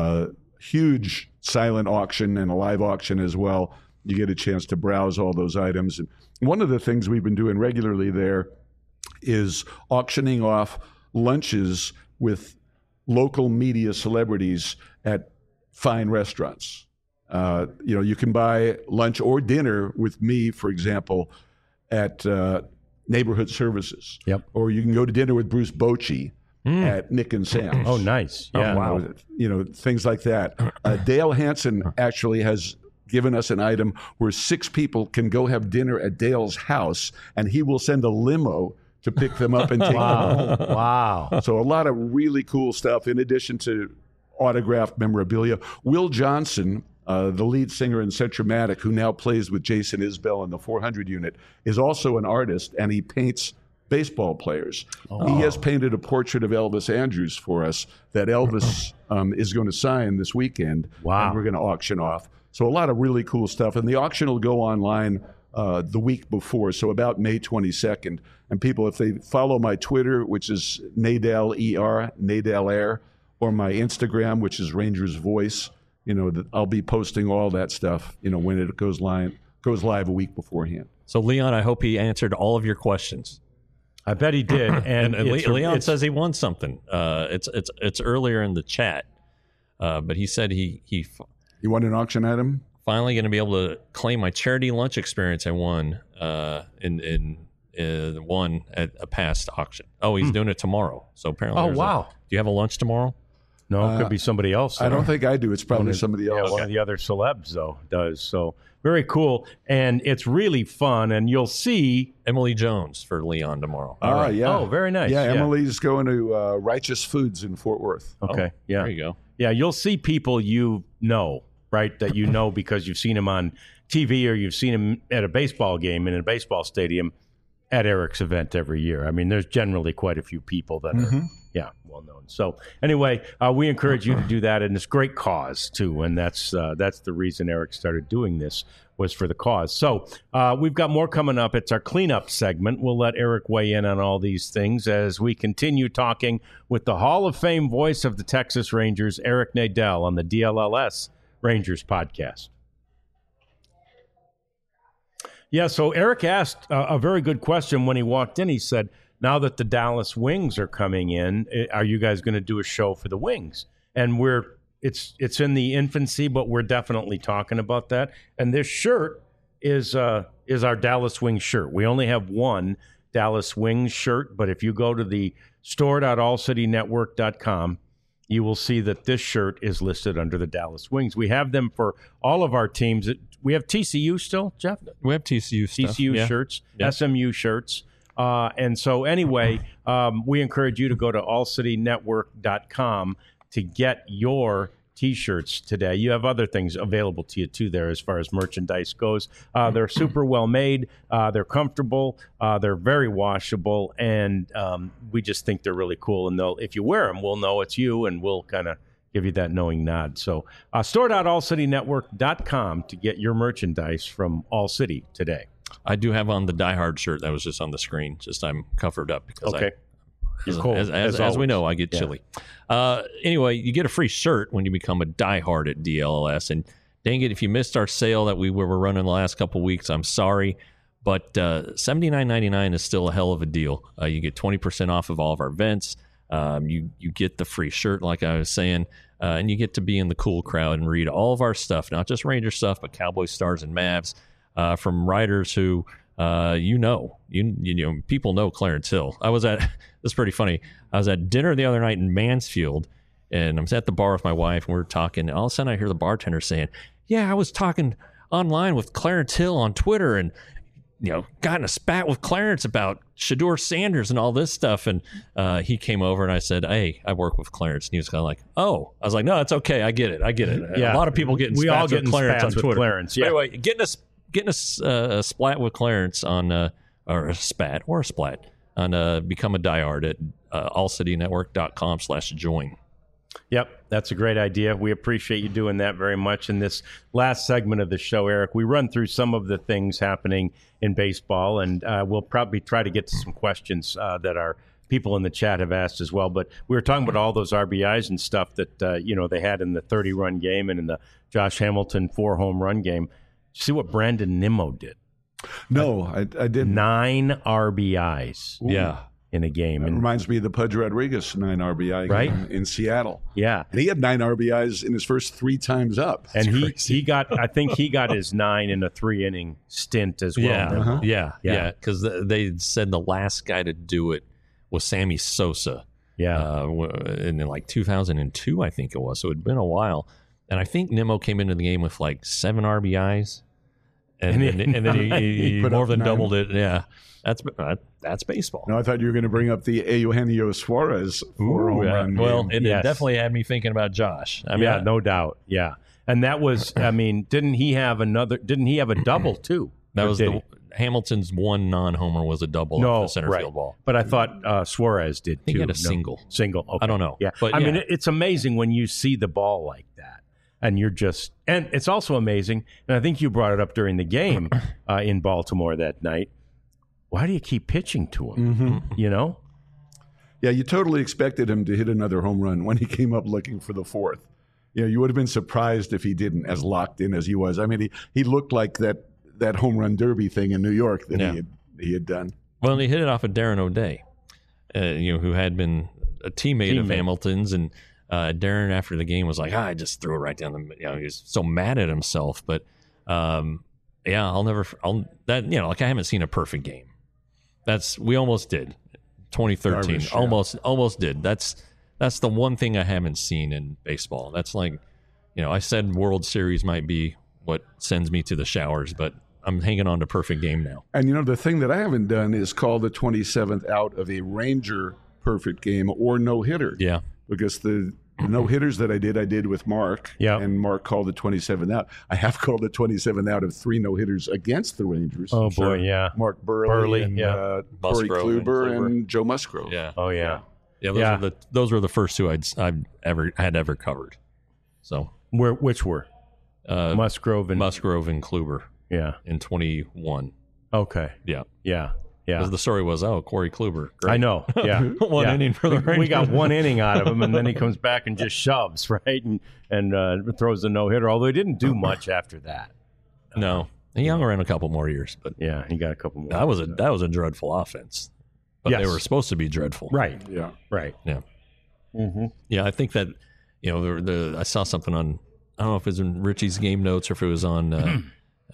Huge silent auction and a live auction as well. You get a chance to browse all those items. And one of the things we've been doing regularly there is auctioning off lunches with local media celebrities at fine restaurants. You can buy lunch or dinner with me, for example, at Neighborhood Services. Yep. Or you can go to dinner with Bruce Bochy at Nick and Sam's. Oh, nice. Yeah. Oh, wow. Things like that. Dale Hansen actually has given us an item where 6 people can go have dinner at Dale's house, and he will send a limo to pick them up and take them home. Wow. So a lot of really cool stuff in addition to autographed memorabilia. Will Johnson, the lead singer in Centromatic, who now plays with Jason Isbell in the 400 unit, is also an artist, and he paints baseball players. He has painted a portrait of Elvis Andrews for us that Elvis is going to sign this weekend. Wow. And we're going to auction off. So a lot of really cool stuff. And the auction will go online the week before, so about May 22nd. And people, if they follow my Twitter, which is Nadal ER, Nadal Air, or my Instagram, which is Rangers Voice, I'll be posting all that stuff, when it goes live a week beforehand. So, Leon, I hope he answered all of your questions. I bet he did. And Leon says he won something. It's earlier in the chat, but he said he won an auction item. Finally, going to be able to claim my charity lunch experience I won won at a past auction. Oh, he's doing it tomorrow. So apparently, do you have a lunch tomorrow? No, it could be somebody else. I don't think I do. It's probably somebody else. Yeah, one of the other celebs, though, does. So very cool. And it's really fun. And you'll see Emily Jones for Leon tomorrow. Yeah. Oh, very nice. Yeah, Emily's going to Righteous Foods in Fort Worth. Okay. Yeah. There you go. Yeah, you'll see people right? That because you've seen him on TV or you've seen him at a baseball game in a baseball stadium at Eric's event every year. I mean, there's generally quite a few people that are, well known. So anyway, we encourage you to do that, and it's a great cause too. And that's the reason Eric started doing this, was for the cause. So we've got more coming up. It's our cleanup segment. We'll let Eric weigh in on all these things as we continue talking with the Hall of Fame voice of the Texas Rangers, Eric Nadel, on the DLLS Rangers podcast. Yeah, so Eric asked a very good question when he walked in. He said, now that the Dallas Wings are coming in, are you guys going to do a show for the Wings? And it's in the infancy, but we're definitely talking about that. And this shirt is our Dallas Wings shirt. We only have one Dallas Wings shirt, but if you go to the store.allcitynetwork.com you will see that this shirt is listed under the Dallas Wings. We have them for all of our teams. We have TCU still, Jeff? We have TCU stuff. TCU shirts, SMU shirts. And so anyway, we encourage you to go to allcitynetwork.com to get your T-shirts today. You have other things available to you too there as far as merchandise goes. They're super well made. They're comfortable. They're very washable, and we just think they're really cool. And if you wear them, we'll know it's you, and we'll kind of give you that knowing nod. So store.allcitynetwork.com to get your merchandise from All City today. I do have on the Die Hard shirt that was just on the screen. Just I'm covered up because as we know, I get chilly. Anyway, you get a free shirt when you become a diehard at DLLS. And dang it, if you missed our sale that we were running the last couple of weeks, I'm sorry. But $79.99 is still a hell of a deal. You get 20% off of all of our events. You get the free shirt, like I was saying, and you get to be in the cool crowd and read all of our stuff, not just Ranger stuff, but Cowboys, Stars, and Mavs from writers who you know, people know Clarence Hill. It's pretty funny. I was at dinner the other night in Mansfield, and I'm at the bar with my wife, and we're talking. And all of a sudden, I hear the bartender saying, "Yeah, I was talking online with Clarence Hill on Twitter, and got in a spat with Clarence about Shedeur Sanders and all this stuff." And he came over, and I said, "Hey, I work with Clarence." And he was kind of like, "Oh." I was like, "No, it's okay. I get it. Yeah. A lot of people getting spats with Clarence on Twitter. Clarence, yeah. Anyway, getting a splat with Clarence on or a splat on become a diehard at allcitynetwork.com/join. Yep, that's a great idea. We appreciate you doing that very much. In this last segment of the show, Eric, we run through some of the things happening in baseball, and we'll probably try to get to some questions that our people in the chat have asked as well. But we were talking about all those RBIs and stuff that they had in the 30-run game and in the Josh Hamilton 4-home run game. See what Brandon Nimmo did? No, I didn't. 9 RBIs. Ooh. Yeah. In a game. It reminds me of the Pudge Rodriguez 9 RBI game in Seattle. Yeah. And he had 9 RBIs in his first 3 times up. That's and he got his 9 in a 3-inning stint as well. Yeah. Yeah. Because they said the last guy to do it was Sammy Sosa. Yeah. In like 2002, I think it was. So it had been a while. And I think Nimmo came into the game with like 7 RBIs. And then he more than 9. Doubled it. Yeah. That's baseball. No, I thought you were going to bring up the Eugenio Suarez home run. Well, it definitely had me thinking about Josh. No doubt. Yeah. And that was, didn't he have a double too? That was Hamilton's one non-homer was a double off the center field ball. But I thought Suarez did too. I think he had a single. Single. Okay. I don't know. Yeah. But it's amazing when you see the ball like that. And and it's also amazing, and I think you brought it up during the game in Baltimore that night. Why do you keep pitching to him? Mm-hmm. Yeah, you totally expected him to hit another home run when he came up looking for the 4th. You would have been surprised if he didn't, as locked in as he was. I mean, he looked like that home run derby thing in New York that he had done. Well, and he hit it off of Darren O'Day, who had been a teammate of Hamilton's, and Darren after the game was like, I just threw it right down the. He was so mad at himself, but I haven't seen a perfect game. We almost did. 2013, almost did. That's the one thing I haven't seen in baseball. That's like, I said World Series might be what sends me to the showers, but I'm hanging on to perfect game now. And the thing that I haven't done is call the 27th out of a Ranger perfect game or no hitter. Yeah, because the no hitters that I did with Mark. Yeah. And Mark called the 27th out. I have called the 27th out of 3 no hitters against the Rangers. Oh boy, yeah. Mark Burley and Corey Kluber and Joe Musgrove. Yeah. Oh yeah. Yeah. Those were the first 2 I've ever covered. So which were Musgrove and Kluber. Yeah. In 21. Okay. Yeah. Yeah. Yeah. The story was, Corey Kluber. Great. I know. Yeah. One inning for the Rangers. We got 1 inning out of him, and then he comes back and just shoves, right? And throws a no-hitter, although he didn't do much after that. No. He hung around a couple more years. But yeah, he got a couple more. That was a dreadful offense. But they were supposed to be dreadful. Right. Yeah. Right. Yeah. Mm-hmm. Yeah, I think that, I saw something on, I don't know if it was in Richie's game notes or if it was on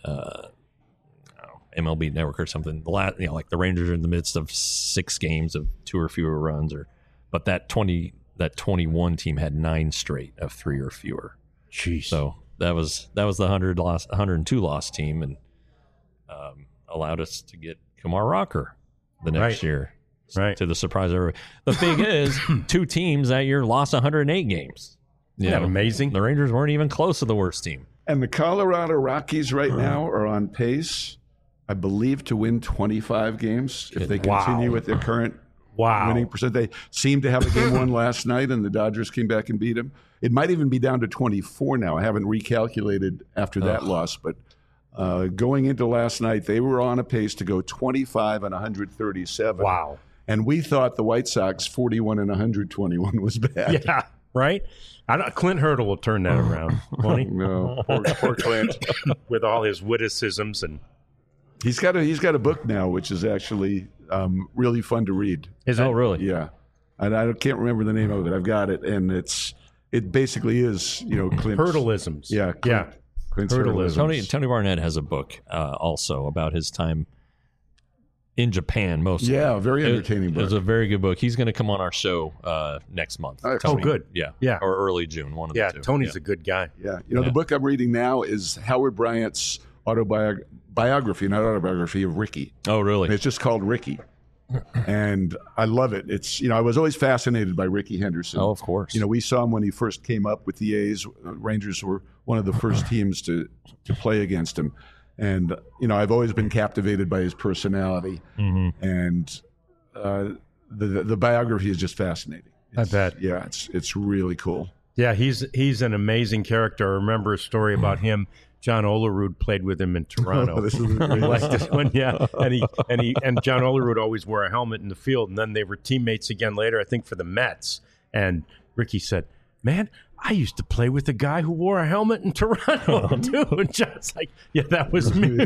MLB Network or something. Like the Rangers are in the midst of 6 games of 2 or fewer runs, but that that 21 team had 9 straight of 3 or fewer. Jeez. So that was the 102 loss team, and allowed us to get Kumar Rocker the next year. Right. To the surprise of everybody. The thing is, 2 teams that year lost 108 games. Isn't that amazing? The Rangers weren't even close to the worst team. And the Colorado Rockies right now are on pace, I believe, to win 25 games if they continue with their current winning percent. They seem to have a game won last night, and the Dodgers came back and beat them. It might even be down to 24 now. I haven't recalculated after that loss, but going into last night, they were on a pace to go 25 and 137. Wow. And we thought the White Sox 41 and 121 was bad. Yeah, right? Clint Hurdle will turn that around, won't he? No, poor Clint. With all his witticisms. And he's got a book now, which is actually really fun to read. Is it? Oh, really? Yeah. And I can't remember the name of it. I've got it. And it basically is, Clint's. Hurdleisms. Yeah. Clint's Hurdleisms. Tony Barnett has a book also about his time in Japan, mostly. Yeah, very entertaining book. It's a very good book. He's going to come on our show next month. Tony, good. Yeah. Or early June, one of the two. Tony's a good guy. Yeah. The book I'm reading now is Howard Bryant's biography, not autobiography, of Ricky. Oh, really? And it's just called Ricky. And I love it. It's, I was always fascinated by Ricky Henderson. Oh, of course. We saw him when he first came up with the A's. Rangers were one of the first teams to play against him. And, I've always been captivated by his personality. Mm-hmm. And the biography is just fascinating. I bet. Yeah, it's really cool. Yeah, he's an amazing character. I remember a story about him. John Olerud played with him in Toronto. Oh, this is I like this one, yeah. And John Olerud always wore a helmet in the field, and then they were teammates again later, I think, for the Mets. And Ricky said, "Man, I used to play with a guy who wore a helmet in Toronto too." And John's like, "Yeah, that was me."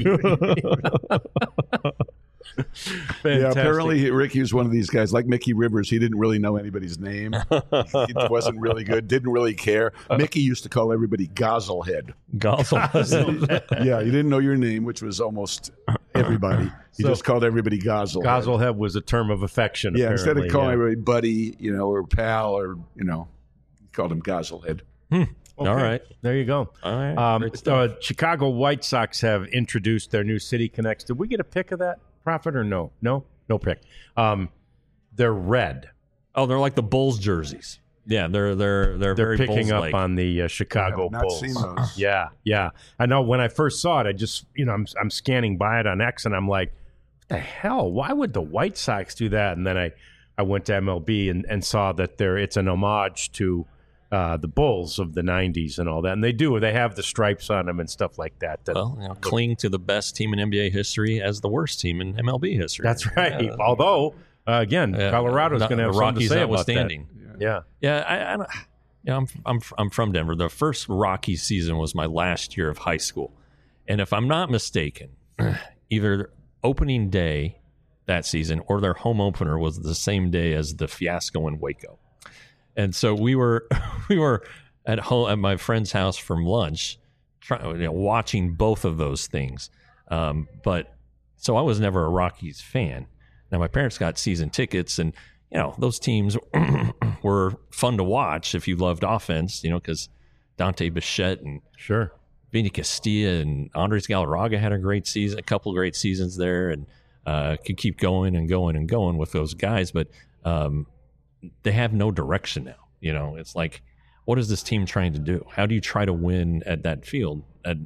Yeah, apparently Ricky was one of these guys like Mickey Rivers. He didn't really know anybody's name. He wasn't really good, didn't really care. Mickey used to call everybody Gozzlehead. Gozzlehead. Yeah, he didn't know your name, which was almost everybody. He just called everybody Gozzlehead. Gozzlehead was a term of affection. Yeah, instead of calling everybody buddy, or pal, or he called him Gozzlehead. Okay. All right. There you go. All right. Chicago White Sox have introduced their new City Connects. Did we get a pick of that, Prophet, or no? No pick. They're red. Oh, they're like the Bulls jerseys. Yeah, they're very picking Bulls-like. up on the Chicago Bulls. Seen those. Yeah. I know when I first saw it, I just I'm scanning by it on X, and I'm like, what the hell? Why would the White Sox do that? And then I went to MLB and saw that it's an homage to the Bulls of the 90s and all that. And they have the stripes on them and stuff like that. Cling to the best team in NBA history as the worst team in MLB history. That's right. Although, again, Colorado's going to have something to say about that. Yeah. I'm from Denver. The first Rockies season was my last year of high school. And if I'm not mistaken, either opening day that season or their home opener was the same day as the fiasco in Waco. And so we were at home at my friend's house from lunch, watching both of those things. But so I was never a Rockies fan. Now my parents got season tickets, and those teams were fun to watch if you loved offense. Because Dante Bichette and Vinny Castilla and Andres Galarraga had a couple of great seasons there, and could keep going and going and going with those guys, but. They have no direction now. It's like, what is this team trying to do? How do you try to win at that field?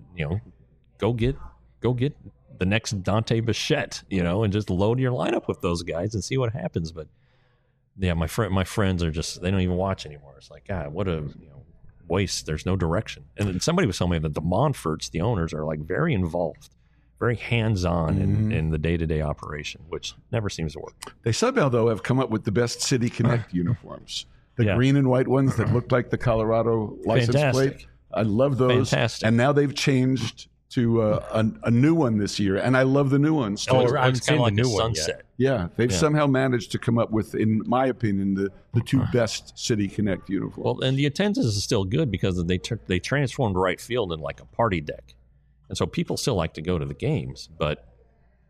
Go get the next Dante Bichette, and just load your lineup with those guys and see what happens. But yeah, my friends are just, they don't even watch anymore. It's like, God, what a waste. There's no direction. And then somebody was telling me that the Monforts, the owners, are like very involved, very hands-on in the day-to-day operation, which never seems to work. They somehow, though, have come up with the best City Connect uniforms. The green and white ones that look like the Colorado license plate. I love those. Fantastic. And now they've changed to a new one this year, and I love the new ones. Oh, I've it's seen kind of the like new a one sunset. Yeah, they've somehow managed to come up with, in my opinion, the two best City Connect uniforms. Well, and the attendance is still good because they transformed right field in like a party deck. And so people still like to go to the games, but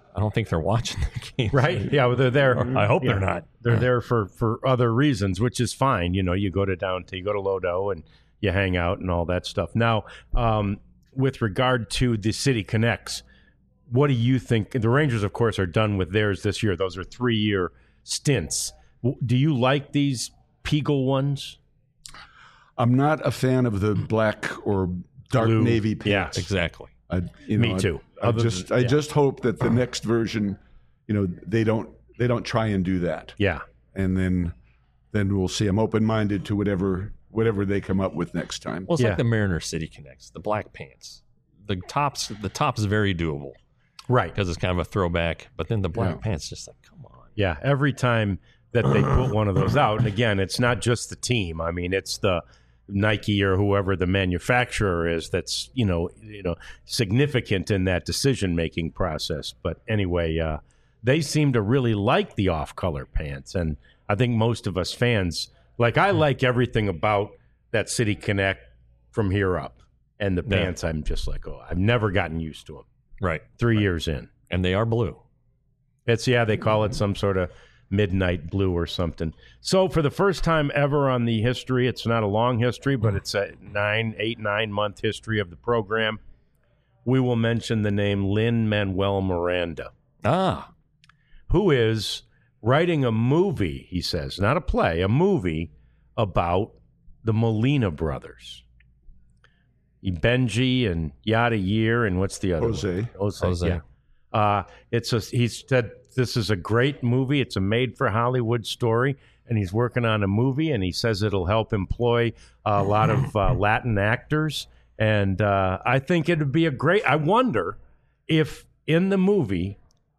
I don't think they're watching the game. Right? Yeah, well, they're there. I hope they're not. They're there for other reasons, which is fine. You go to Lodo and you hang out and all that stuff. Now, with regard to the City Connects, what do you think? The Rangers, of course, are done with theirs this year. Those are 3-year stints. Do you like these Peagle ones? I'm not a fan of the black or dark Blue. navy pants. Yeah, exactly. Me too. I just hope that the next version, they don't try and do that. Yeah, and then we'll see. I'm open-minded to whatever they come up with next time. Well, it's like the Mariner City Connects, the black pants. The top's very doable, right? Because it's kind of a throwback. But then the black pants, just like, come on. Yeah, every time that they put one of those out, and again, it's not just the team. I mean, it's the Nike or whoever the manufacturer is that's significant in that decision-making process. But anyway, they seem to really like the off-color pants, and I think most of us fans, I like everything about that City Connect from here up, and the pants, I'm just like, I've never gotten used to them. Right. 3 years in. And they are blue. They call it some sort of midnight blue or something. So for the first time ever on the history, it's not a long history, but it's a 9-month history of the program, we will mention the name Lin-Manuel Miranda. Who is writing a movie, he says, not a play, a movie about the Molina brothers. Benji and Yadier, and what's the other Jose. one? Jose. Yeah. He said this is a great movie. It's a made-for-Hollywood story, and he's working on a movie, and he says it'll help employ a lot of Latin actors. And I think it would be I wonder if in the movie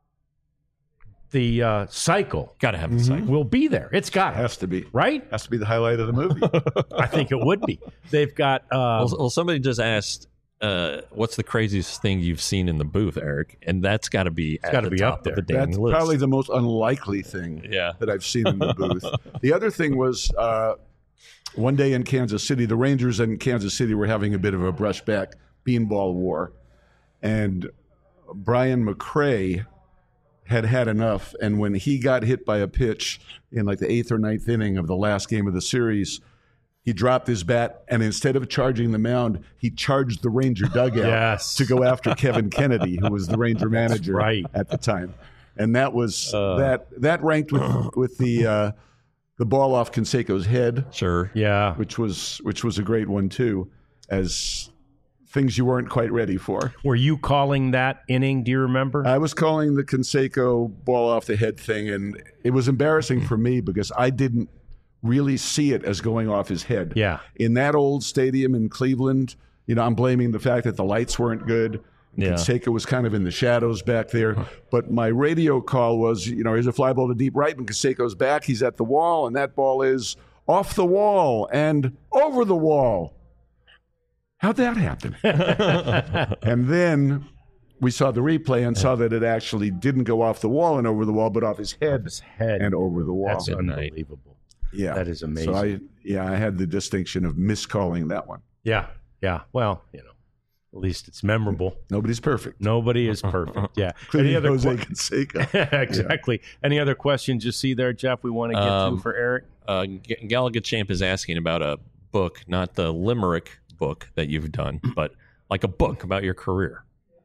the cycle, got to have the cycle, will be there. It's got has to be, right. Has to be the highlight of the movie. I think it would be. They've got. Well, somebody just asked, "What's the craziest thing you've seen in the booth, Eric?" And that's got to be up there. Of the that's list. Probably the most unlikely thing that I've seen in the booth. The other thing was one day in Kansas City, the Rangers in Kansas City were having a bit of a brushback beanball war, and Brian McRae had enough, and when he got hit by a pitch in the 8th or 9th inning of the last game of the series, he dropped his bat, and instead of charging the mound, he charged the Ranger dugout to go after Kevin Kennedy, who was the Ranger manager at the time. And that was that ranked with the ball off Canseco's head, which was a great one too, as things you weren't quite ready for. Were you calling that inning? Do you remember? I was calling the Canseco ball off the head thing, and it was embarrassing for me because I didn't really see it as going off his head. Yeah. In that old stadium in Cleveland, I'm blaming the fact that the lights weren't good. Canseco was kind of in the shadows back there. But my radio call was, here's a fly ball to deep right, and Canseco's back. He's at the wall, and that ball is off the wall and over the wall. How'd that happen? And then we saw the replay and saw that it actually didn't go off the wall and over the wall, but off his head and over the wall. That's unbelievable. Yeah. That is amazing. So I had the distinction of miscalling that one. Yeah. Yeah. Well, at least it's memorable. Nobody's perfect. Nobody is perfect. Yeah. Any other Jose Canseco. Exactly. Yeah. Any other questions you see there, Jeff, we want to get to for Eric? Gallagher Champ is asking about a book, not the Limerick book that you've done, but like a book about your career.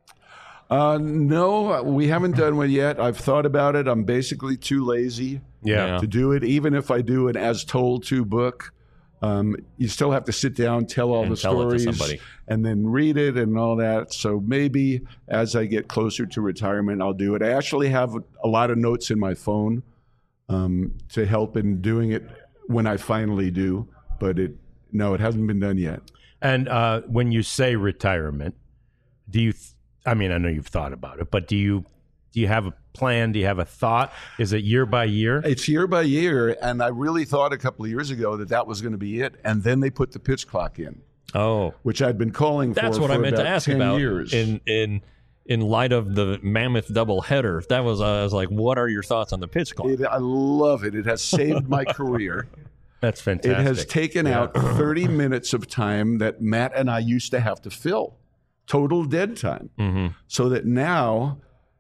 No, we haven't done one yet. I've thought about it. I'm basically too lazy to do it. Even if I do an as told to book, you still have to sit down, tell all the stories, and then read it and all that. So maybe as I get closer to retirement, I'll do it. I actually have a lot of notes in my phone to help in doing it when I finally do. But it hasn't been done yet. And when you say retirement, do you? I know you've thought about it, but do you have a plan? Do you have a thought? Is it year by year? It's year by year, and I really thought a couple of years ago that was going to be it, and then they put the pitch clock in. Oh, which I'd been calling for. That's what I meant to ask about. Years. In light of the mammoth doubleheader, I was like, what are your thoughts on the pitch clock? I love it. It has saved my career. That's fantastic. It has taken out 30 minutes of time that Matt and I used to have to fill. Total dead time. Mm-hmm. So that now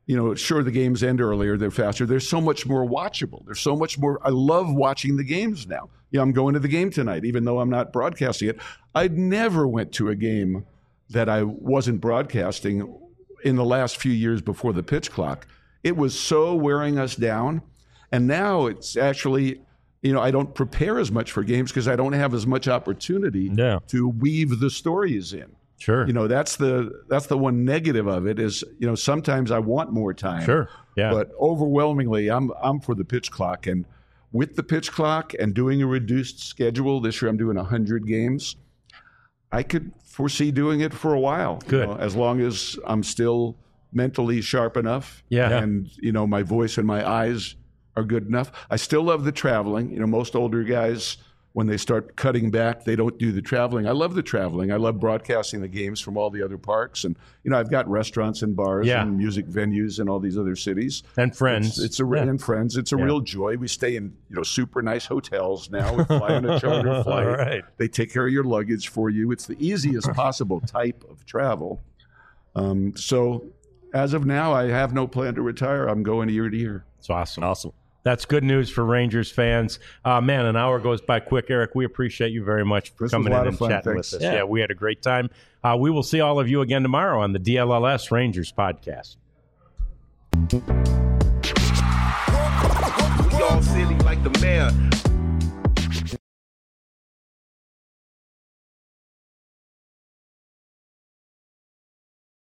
sure, the games end earlier, they're faster. They're so much more watchable. There's so much more. I love watching the games now. I'm going to the game tonight, even though I'm not broadcasting it. I never went to a game that I wasn't broadcasting in the last few years before the pitch clock. It was so wearing us down. And now it's actually, I don't prepare as much for games because I don't have as much opportunity to weave the stories in. Sure. That's the one negative of it is, sometimes I want more time. Sure. Yeah. But overwhelmingly, I'm for the pitch clock. And with the pitch clock and doing a reduced schedule, this year I'm doing 100 games. I could foresee doing it for a while. Good. As long as I'm still mentally sharp enough. Yeah. And, my voice and my eyes are good enough. I still love the traveling. Most older guys, when they start cutting back, they don't do the traveling. I love the traveling. I love broadcasting the games from all the other parks. And, I've got restaurants and bars and music venues in all these other cities. And friends. And friends. It's a real joy. We stay in, super nice hotels now. We fly on a charter flight. Right. They take care of your luggage for you. It's the easiest possible type of travel. So as of now, I have no plan to retire. I'm going year to year. It's awesome. Awesome. That's good news for Rangers fans. Man, an hour goes by quick. Eric, we appreciate you very much for coming in and chatting with us. Yeah, we had a great time. We will see all of you again tomorrow on the DLLS Rangers podcast. We all silly like the mayor.